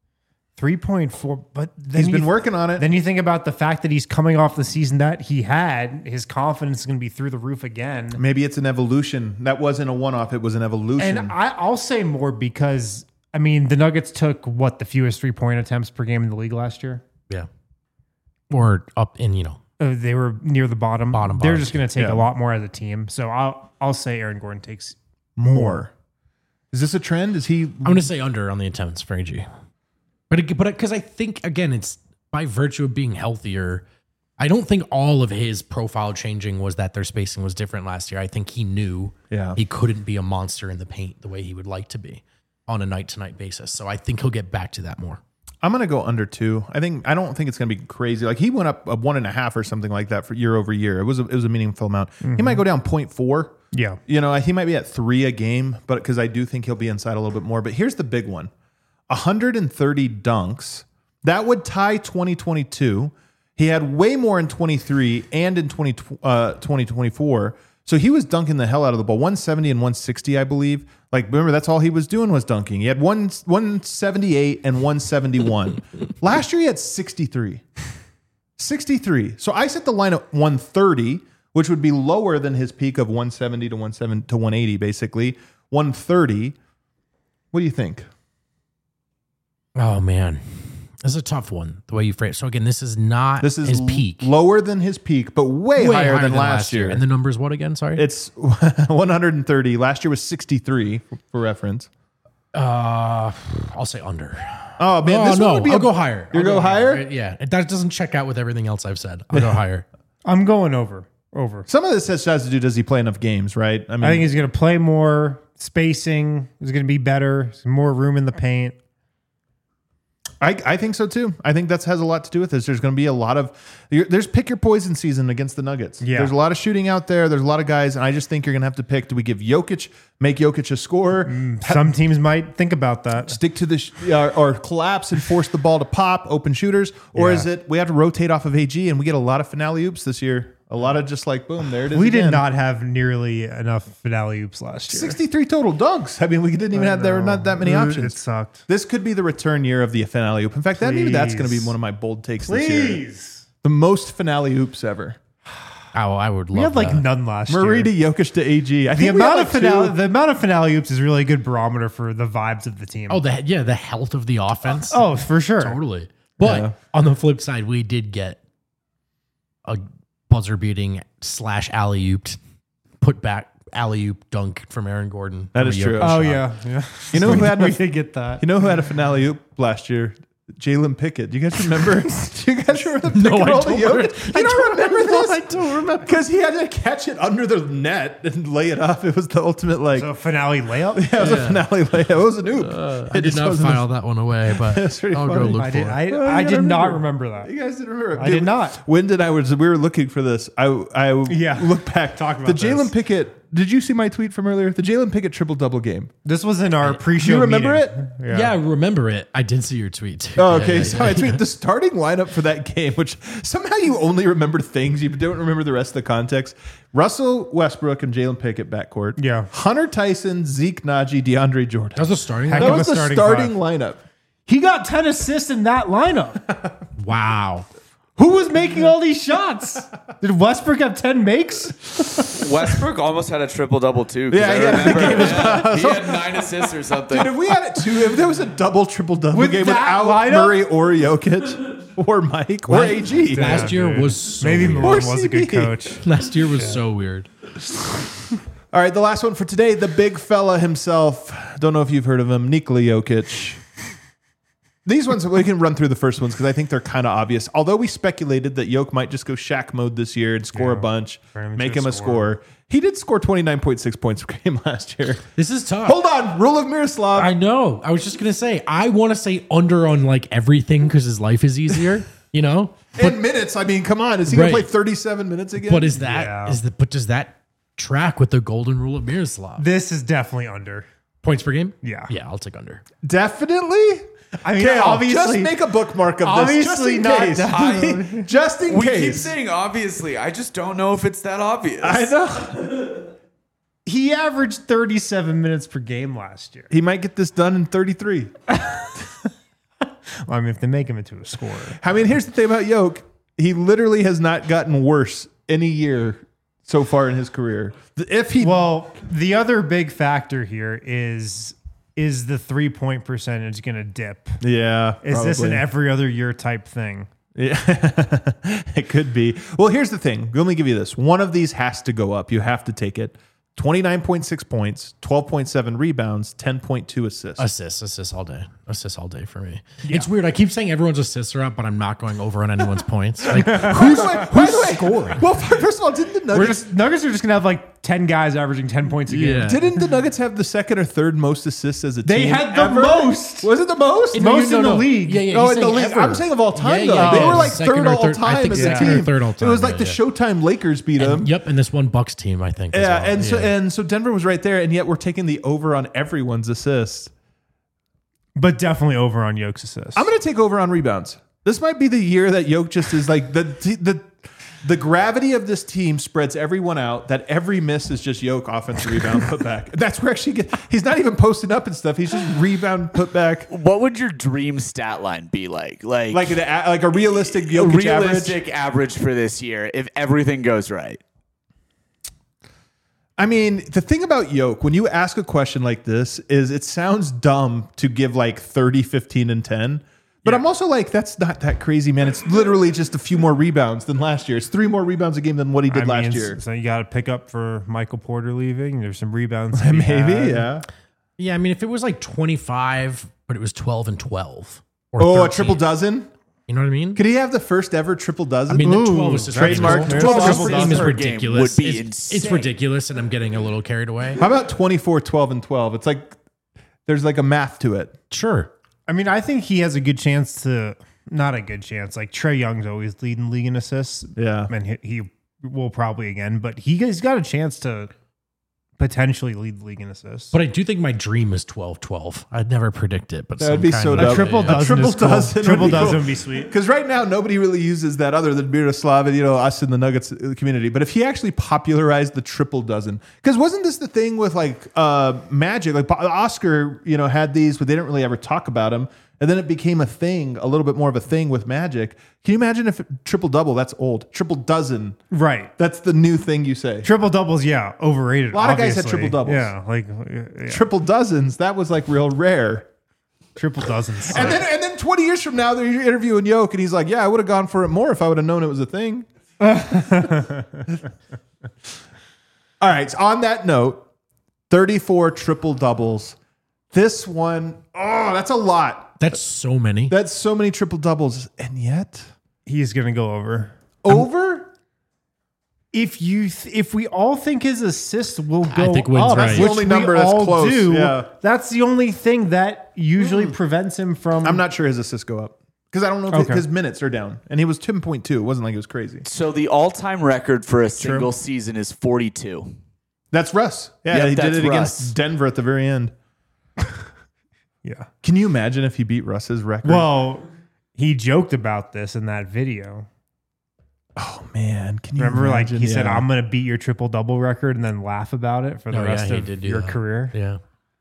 3.4, but then he's been working on it. Then you think about the fact that he's coming off the season that he had. His confidence is going to be through the roof again. Maybe it's an evolution. That wasn't a one-off. It was an evolution. And I'll say more because, I mean, the Nuggets took, the fewest 3-point attempts per game in the league last year? Yeah. Or up in, they were near the bottom. Bottom. They're just going to take a lot more as a team. So I'll say Aaron Gordon takes more. Is this a trend? Is he? I'm going to say under on the attempts for AG. But because I think, again, it's by virtue of being healthier. I don't think all of his profile changing was that their spacing was different last year. I think he knew he couldn't be a monster in the paint the way he would like to be on a night-to-night basis. So I think he'll get back to that more. I'm going to go under 2. I don't think it's going to be crazy. Like he went up a 1.5 or something like that for year over year. It was a meaningful amount. He might go down 0.4. Yeah. He might be at 3 a game, but because I do think he'll be inside a little bit more. But here's the big one. 130 dunks. That would tie 2022. He had way more in 23 and in 2024. So he was dunking the hell out of the ball. 170 and 160, I believe. Like, remember, that's all he was doing was dunking. He had 178 and 171. Last year, he had 63. 63. So I set the line at 130, which would be lower than his peak of 170 to 180, basically. 130. What do you think? Oh, man. This is a tough one, the way you phrase it. So, again, this is his peak. Lower than his peak, but way higher than last year. And the number's what again? Sorry? It's 130. Last year was 63, for reference. I'll say under. Oh, man. I'll go higher. You'll go higher? Yeah. That doesn't check out with everything else I've said. I'll go higher. I'm going over. Some of this has to do, does he play enough games, right? I think he's going to play more. Spacing is going to be better. There's more room in the paint. I think so too. I think that has a lot to do with this. There's going to be a lot of there's pick your poison season against the Nuggets. Yeah. There's a lot of shooting out there. There's a lot of guys, and I just think you're going to have to pick. Do we give make Jokic a scorer? Some teams might think about that. Stick to the or collapse and force the ball to pop, open shooters, or is it we have to rotate off of AG and we get a lot of finale oops this year? A lot of just like boom, there it is. We again. did not have nearly enough finale oops last year. 63 total dunks. I mean, we didn't even have there were not that many options. It sucked. This could be the return year of the finale oop. In fact, maybe that's going to be one of my bold takes this year. The most finale oops ever. Oh, I would love. We had like none last Murray year. to Jokic to AG. The amount of finale oops is really a good barometer for the vibes of the team. Oh, the health of the offense. Oh, for sure, totally. But on the flip side, we did get a buzzer beating / alley oop, put back alley oop dunk from Aaron Gordon. That is true. Oh yeah. You know who had we did get that. You know who had a finale oop last year? Jalen Pickett. Do you guys remember? Do you guys remember the No, pick and I roll don't to Jokic? remember- You don't remember this? I don't remember. Because he had to catch it under the net and lay it up. It was the ultimate So finale layup. yeah, it was a finale layup. It was an oop. I It did just not wasn't file that one away, but That's pretty I'll go funny. look I for did. it. I you did gotta not remember. remember that. You guys didn't remember? I did not. Wyndon and I we were looking for this. I look back. Talk about the Jalen this. Pickett. Did you see my tweet from earlier? The Jalen Pickett triple double game. This was in our pre-show. You remember meeting. it? Yeah, I remember it. I did see your tweet too. Oh, Yeah, okay. yeah, So yeah. I tweeted the starting lineup for that game, which somehow you only remember things. You don't remember the rest of the context. Russell Westbrook and Jalen Pickett backcourt. Yeah. Hunter Tyson, Zeke Naji, DeAndre Jordan. That was the starting. Heck That of was a the starting starting lineup. He got 10 assists in that lineup. Wow. Who was making all these shots? Did Westbrook have 10 makes? Westbrook almost had a triple double too. Yeah, I yeah, the remember he had 9 assists or something. Dude, if we had it too, if there was a double triple double With game that without lineup? Murray or Jokic or Mike or AG. Last year dude. was so Maybe weird. Malone Or was a good CB. coach. Last year was so weird. All right, the last one for today, the big fella himself. Don't know if you've heard of him, Nikola Jokic. These ones, we can run through the first ones because I think they're kind of obvious. Although we speculated that Jokic might just go Shaq mode this year and score a bunch, Turn him make into him a a scorer. He did score 29.6 points per game last year. This is tough. Hold on, rule of Miroslav. I know. I was just gonna say I want to say under on like everything because his life is easier. You know. In minutes, I mean, come on. Is he going to Right. play 37 minutes again? But is that Yeah. but does that track with the golden rule of Miroslav? This is definitely under. Points per game? Yeah. Yeah, I'll take under. Definitely? I mean, Kale, obviously, just make a bookmark of this. obviously Just in not case. down. Just in We keep case. saying obviously. I just don't know if it's that obvious. I know. he averaged 37 minutes per game last year. He might get this done in 33. Well, I mean, if they make him into a scorer. I mean, here's the thing about Jokic. He literally has not gotten worse any year so far in his career. If he Well, the other big factor here is the 3-point percentage going to dip? Yeah. Is this an probably. every other year type thing? Yeah. It could be. Well, here's the thing. Let me give you this. One of these has to go up. You have to take it. 29.6 points, 12.7 rebounds, 10.2 assists. Assists all day. Assists all day for me. It's weird. I keep saying everyone's assists are up, but I'm not going over on anyone's points. Like, By the way, scoring? Well, first of all, didn't the Nuggets Nuggets are just going to have like 10 guys averaging 10 points a game. Yeah. didn't the Nuggets have the second or third most assists as a They team? had the ever? most. Was it the most? Most in the league. Yeah, yeah. Oh, he's in the saying league. ever. I'm saying of all time, Yeah, though. yeah, They yeah. were like Second third or all third. time I think as a second team. or third all time. It was like yeah, the yeah. Showtime Lakers beat them. Yep, and this one Bucks team, I think. as Yeah, well. and so Denver was right there, and yet we're taking the over on everyone's assists. But definitely over on Jokic assists. I'm going to take over on rebounds. This might be the year that Jokic just is like the gravity of this team spreads everyone out. That every miss is just Jokic offensive rebound put back. That's where actually he's not even posting up and stuff. He's just rebound put back. What would your dream stat line be like? Like a realistic Jokic realistic average. average for this year if everything goes right. I mean, the thing about Jokic, when you ask a question like this, is it sounds dumb to give like 30, 15, and 10. But I'm also like, that's not that crazy, man. It's literally just a few more rebounds than last year. It's 3 more rebounds a game than what he did last year. So you got to pick up for Michael Porter leaving. There's some rebounds. that he Maybe, had. yeah. Yeah, I mean, if it was like 25, but it was 12 and 12. Or Oh, 13, a triple dozen? You know what I mean? Could he have the first ever triple dozen? I mean, the 12 is just trademark. ridiculous. 12 12 triple team is dozen per game ridiculous. would be It's insane. ridiculous, and I'm getting a little carried away. How about 24, 12, and 12? It's like there's like a math to it. Sure. I mean, I think he has a good chance to, not a good chance. Like Trae Young's always leading league in assists. Yeah. And he will probably again, but he's got a chance to potentially lead the league in assists. But I do think my dream is 12-12. I'd never predict it, but That would be so kind dope. of- a triple A dozen triple is cool. dozen would Triple be dozen cool. would be sweet. Because right now, nobody really uses that other than Miroslav and, us in the Nuggets community. But if he actually popularized the triple dozen, because wasn't this the thing with like Magic? Like Oscar, had these, but they didn't really ever talk about them. And then it became a thing, a little bit more of a thing with Magic. Can you imagine if triple double? That's old. Triple dozen. Right. That's the new thing you say. Triple doubles, yeah, overrated. A lot of guys had obviously. triple doubles. Yeah, like Triple dozens. That was like real rare. triple dozens. And then 20 years from now, they're interviewing Jokic, and he's like, "Yeah, I would have gone for it more if I would have known it was a thing." All right. So on that note, 34 triple doubles, This one, that's a lot. That's so many. That's so many triple doubles, and yet He's going to go over. Over. If we all think his assists will go I think Wynn's up, right. That's the which only we number that's all close. do, Yeah. that's the only thing that usually prevents him from. I'm not sure his assists go up because I don't know if Okay. his minutes are down, and he was 10.2. It wasn't like it was crazy. So the all-time record for a single season is 42. That's Russ. Yeah, Yep, he did that's it Russ. against Denver at the very end. Yeah. Can you imagine if he beat Russ's record? Well, he joked about this in that video. oh man, can you Remember, imagine? like he said, Yeah. "I'm going to beat your triple double record," and then laugh about it for the rest he of did do your that. career. Yeah.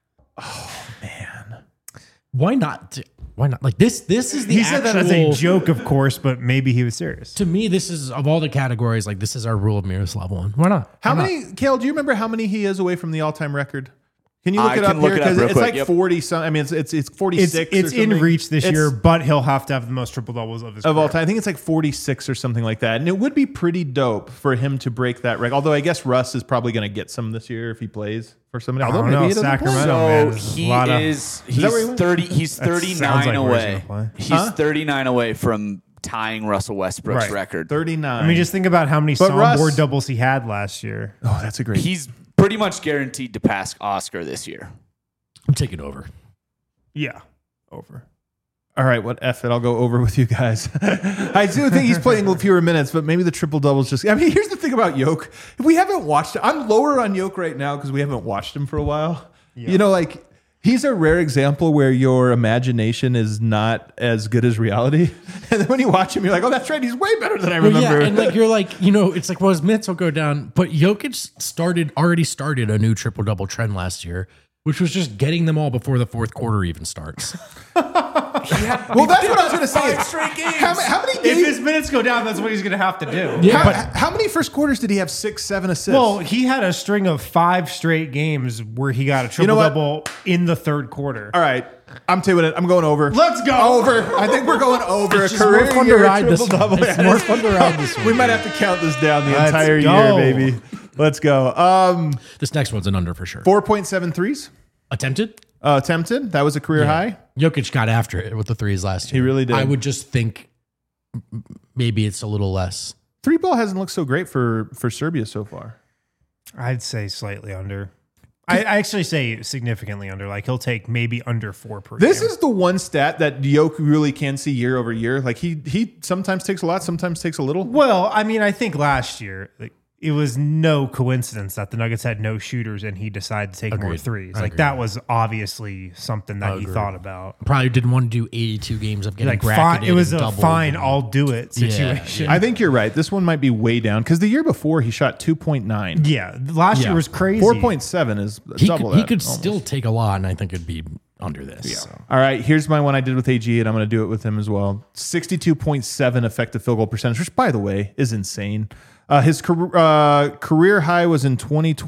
man. Why not? Why not? Like this is the He said that as a actual- joke, of course, but maybe he was serious. To me, this is of all the categories, like this is our rule of Miroslav one. Why not? How Why many, Kale? Do you remember how many he is away from the all-time record? Can you look I it up can look here? it up Because real it's quick. like Yep. 40 some. I mean, it's 46. It's or in something. reach this It's- year, but he'll have to have the most triple doubles of his of all career. time. I think it's like 46 or something like that. And it would be pretty dope for him to break that record. Although I guess Russ is probably going to get some this year if he plays for somebody. Although don't maybe know. he doesn't Sacramento. play. Oh, man, So there's a he lot of- is that where he he's went? 30 he's sounds 39 like where he's away. gonna play. He's 39 away from tying Russell Westbrook's Right. record. 39. I mean, just think about how many But Russ- soundboard doubles he had last year. oh, that's a great. He's pretty much guaranteed to pass Oscar this year. I'm taking over. Yeah, over. All right, what F it? I'll go over with you guys. I do think he's playing fewer minutes, but maybe the triple doubles just. I mean, here's the thing about Yoke. If we haven't watched it, I'm lower on Yoke right now because we haven't watched him for a while. You know, like he's a rare example where your imagination is not as good as reality. And then when you watch him, you're like, oh, that's right. He's way better than I remember. Yeah, and like you're like, you know, it's like, well, his minutes will go down. But Jokic already started a new triple double trend last year, which was just getting them all before the fourth quarter even starts. well, that's what I was going to say. How many If games? his minutes go down, that's what he's going to have to do. Yeah, How many first quarters did he have 6, 7 assists? Well, he had a string of 5 straight games where he got a triple know what? double in the third quarter. all right. I'm doing it. I'm going over. Let's go. Over. I think we're going over. It's just more fun to ride this one. triple-double. It's more fun to ride this one. We might have to count this down the Let's entire go. year, baby. Let's go. This next one's an under for sure. 4.7 threes Attempted? attempted. That was a career high. Jokic got after it with the threes last year. He really did. I would just think maybe it's a little less. Three ball hasn't looked so great for Serbia so far. I'd say slightly under. I actually say significantly under. Like he'll take maybe under 4 per This game. is the one stat that Yoke really can see year over year. Like he sometimes takes a lot, sometimes takes a little. Well, I mean, I think last year it was no coincidence that the Nuggets had no shooters and he decided to take more Agreed. threes. I Like agree. that was obviously something that he Agreed. thought about. Probably didn't want to do 82 games of getting Like bracketed. fine, it was and a doubled fine, and- I'll do it Yeah, situation. yeah. I think you're right. This one might be way down because the year before he shot 2.9. Yeah, last year was crazy. 4.7 is He double could, he that, could almost. still take a lot, and I think it'd be under this. So. All right, here's my one I did with AG, and I'm going to do it with him as well. 62.7 effective field goal percentage, which, by the way, is insane. His career high was in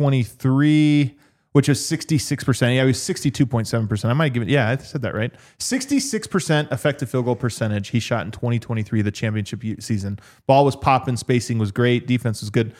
2023, which is 66%. Yeah, he was 62.7%. I might give it, yeah, I said that right. 66% effective field goal percentage he shot in 2023, the championship season. Ball was popping, spacing was great, defense was good.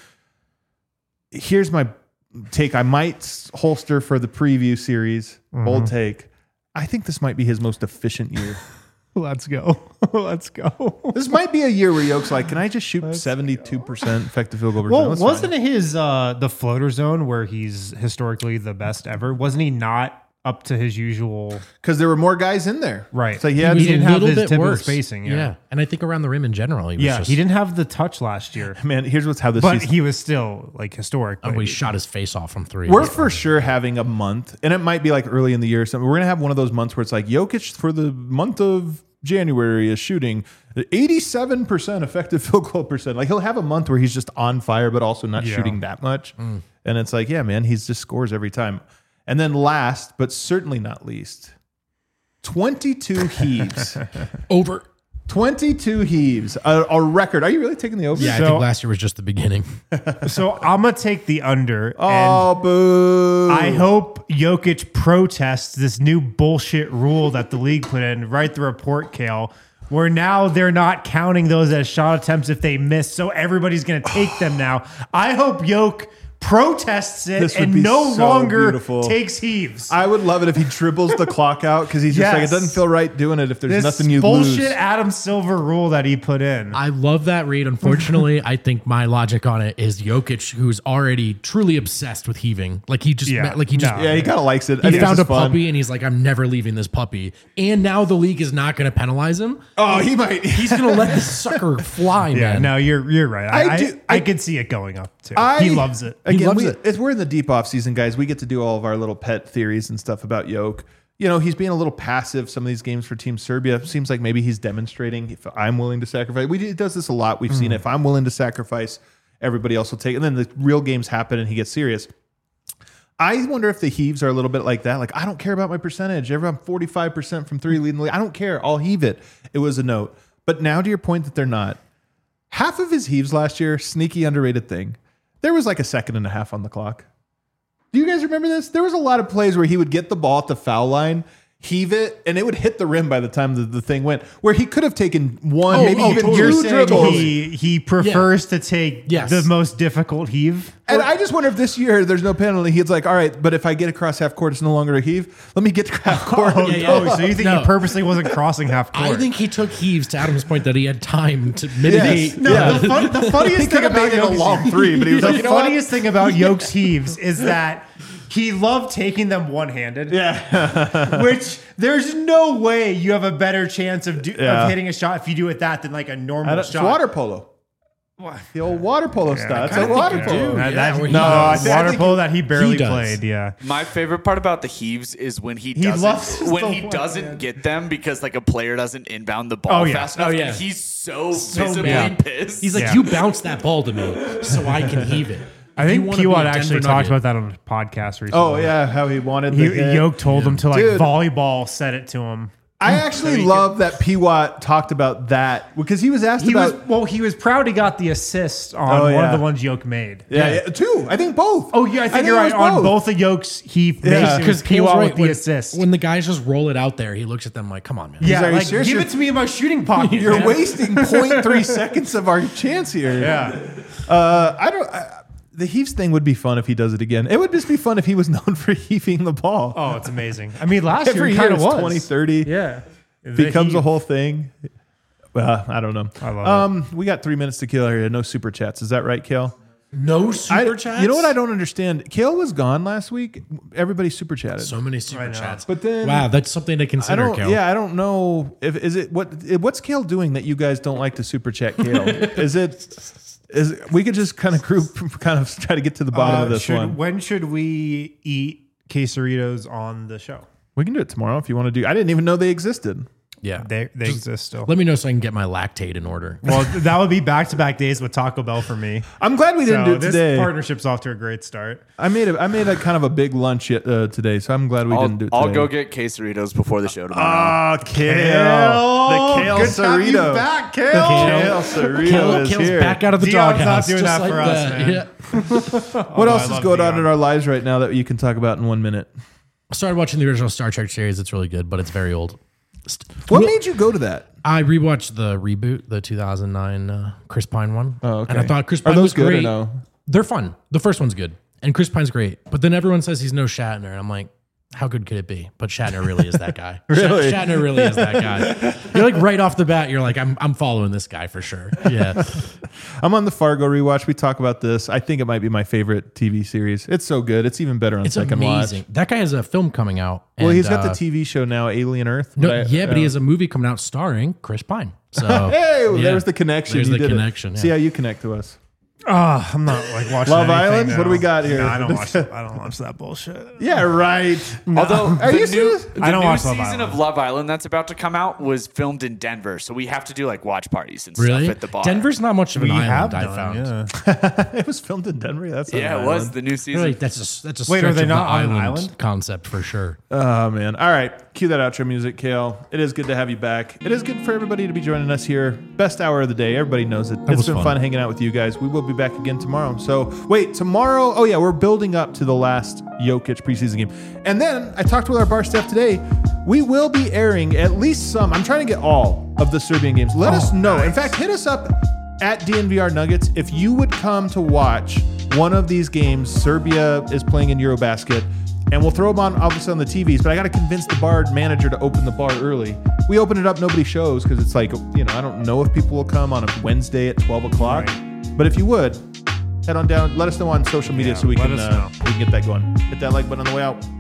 Here's my take. I might holster for the preview series. Bold take. I think this might be his most efficient year. Let's go. Let's go. This might be a year where Yoke's like, can I just shoot 72% effective field goal percentage? Well, That's wasn't fine. it his the floater zone where he's historically the best ever? Wasn't he not up to his usual? Because there were more guys in there. Right. So He yeah, was He was didn't a have little his bit typical worse. spacing, yeah. And I think around the rim in general, he was Yeah, just, he didn't have the touch last year, man, here's how this but season. he was still like historic. Oh, but he shot his face off from three. We're for sure having a month, and it might be like early in the year or something. We're going to have one of those months where it's like Jokic for the month of January is shooting 87% effective field goal percent. Like he'll have a month where he's just on fire, but also not Yeah. shooting that much. And it's like, yeah, man, he's just scores every time. And then last, but certainly not least, 22 heaves. over. 22 heaves, a record. Are you really taking the over? Yeah, I So- think last year was just the beginning. So I'm gonna take the under. And Oh, boo. I hope Jokic protests this new bullshit rule that the league put in. Write the report, Kale, where now they're not counting those as shot attempts if they miss. So everybody's going to take them now. I hope Yoke protests it This would and be no so longer beautiful. takes heaves. I would love it if he dribbles the clock out because he's just like, it doesn't feel right doing it if there's nothing you bullshit lose. Adam Silver rule that he put in. I love that read. Unfortunately, I think my logic on it is Jokic, who's already truly obsessed with heaving. Like he just, Yeah, Yeah, he kind of likes it. I he think it's found a just fun. puppy and he's like, I'm never leaving this puppy. And now the league is not going to penalize him. Oh, he might. He's going to let this sucker fly, yeah, man. no, you're right. I could see it going up too. He loves it. Again, loves it. We're in the deep off season, guys. We get to do all of our little pet theories and stuff about Jokic. You know, he's being a little passive some of these games for Team Serbia. Seems like maybe he's demonstrating if I'm willing to sacrifice. He does this a lot. We've seen it. If I'm willing to sacrifice, everybody else will take it. And then the real games happen and he gets serious. I wonder if the Heaves are a little bit like that. Like, I don't care about my percentage. I'm 45% from three leading the league. I don't care. I'll heave it. It was a note. But now to your point that they're not. Half of his heaves last year, sneaky underrated thing. There was like a second and a half on the clock. Do you guys remember this? There was a lot of plays where he would get the ball at the foul line, heave it, and it would hit the rim by the time the thing went. Where he could have taken one, maybe even totally. You're two saying dribbles. he prefers to take Yes. the most difficult heave. And I just wonder if this year there's no penalty. He's like, all right, but if I get across half court, it's no longer a heave. Let me get to half court. Oh, yeah. oh, so you think No. he purposely wasn't crossing half court? I think he took heaves to Adam's point that he had time to mitigate. Yes. No, Yeah. the funniest thing about made it a Jokic's long three, but he was the like, you know what? funniest thing about Yoke's heaves is that he loved taking them one-handed. Yeah. Which there's no way you have a better chance of Yeah. hitting a shot if you do it that than like a normal It's shot. water polo. The old water polo style. It's a water you polo. do. That- Yeah, that- where he no, does. water I think polo that he barely does. played. Yeah. My favorite part about the heaves is when he loves doesn't when the he one doesn't hand. get them because like a player doesn't inbound the ball Oh, yeah. fast enough. Oh, yeah. And he's so visibly mad. pissed. He's like, Yeah. you bounce that ball to me so I can heave it. I think You wanna be Kiwad a actually Denver talked Nugget. about that on a podcast recently. Oh, yeah. How he wanted the hit. Yoke told him to like Dude. volleyball set it to him. I actually love that P-Watt talked about that because he was asked He about. was proud he got the assist on Oh, one yeah. of the ones Yoke made. Yeah, two. I think both. Oh yeah, I think think you're it right. was On both of Yoke's, he basically Because Kiwad with the assist. When the guys just roll it out there, he looks at them like, come on, man. yeah, Are you like serious? give You're- it to me in my shooting pocket. You're man. wasting 0.3 seconds of our chance here. Yeah. The heaves thing would be fun if he does it again. It would just be fun if he was known for heaving the ball. Oh, it's amazing. I mean, last year Every he year kind of it's was 20, 30. Yeah, Becomes a whole thing. Well, I don't know. I love We got 3 minutes to kill here. No super chats. Is that right, Kale? No super chats? You know what I don't understand? Kale was gone last week. Everybody super chatted. So many super know. chats. But then- wow, that's something to I consider, don't. Kel. Yeah, I don't know. What's Kale doing that you guys don't like to super chat Kale? Is we could just kind of try to get to the bottom of this one. When should we eat quesaritos on the show? We can do it tomorrow if you want to do. I didn't even know they existed. Yeah. They exist still. Let me know so I can get my lactate in order. Well, that would be back-to-back days with Taco Bell for me. I'm glad we didn't do it this today. partnership's off to a great start. I made a kind of a big lunch today, so I'm glad we didn't do it today. I'll go get quesaritos before the show tomorrow. Ah, Kale. The Kale Good to have you Cerrito. back, Kale. Kale Cerrito is Kale's here. back out of the Dion's not doghouse. doing just that like for us, that. man. Yeah. What else I is love going on Dion. in our lives right now that you can talk about in 1 minute? I started watching the original Star Trek series. It's really good, but it's very old. What made you go to that? I rewatched the reboot, the 2009 Chris Pine one. Oh, okay. And I thought Chris Are Pine those was good great. or no? They're fun. The first one's good. And Chris Pine's great. But then everyone says he's no Shatner. And I'm like, how good could it be? But Shatner really is that guy. Really? Shatner really is that guy. You're like right off the bat, you're like, I'm following this guy for sure. Yeah. I'm on the Fargo rewatch. We talk about this. I think it might be my favorite TV series. It's so good. It's even better on It's second amazing. watch. That guy has a film coming out. Well, and, he's got the TV show now, Alien Earth. No, But but he has a movie coming out starring Chris Pine. So Hey, yeah. there's the connection. There's You the did it. connection. See yeah. how you connect to us. I'm not like watching Love anything Island? now. What do we got here? No, I don't watch that bullshit. Yeah, right. Although Are the you new, serious? the I don't new watch Love season Island. of Love Island that's about to come out was filmed in Denver, so we have to do like watch parties and Really? stuff at the bar. Denver's not much of an We island, have I done, found. yeah. It was filmed in Denver. That's not yeah, an it was island. the new season. Really, that's a stretch Wait, are they of not the on an island, island? concept for sure. Oh, man. All right. Cue that outro music, Kale. It is good to have you back. It is good for everybody to be joining us here. Best hour of the day. Everybody knows it. It's was been fun. fun hanging out with you guys. We will be back again tomorrow. So, wait, tomorrow. Oh, yeah, we're building up to the last Jokic preseason game. And then I talked with our bar staff today. We will be airing at least some. I'm trying to get all of the Serbian games. Let us know. In fact, hit us up at DNVR Nuggets, if you would come to watch one of these games, Serbia is playing in Eurobasket, and we'll throw them on, obviously, on the TVs, but I got to convince the bar manager to open the bar early. We open it up, nobody shows because it's like, I don't know if people will come on a Wednesday at 12 o'clock. Right. But if you would, head on down, let us know on social media so we can get that going. Hit that like button on the way out.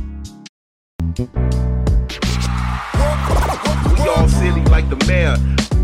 We all silly like the mayor.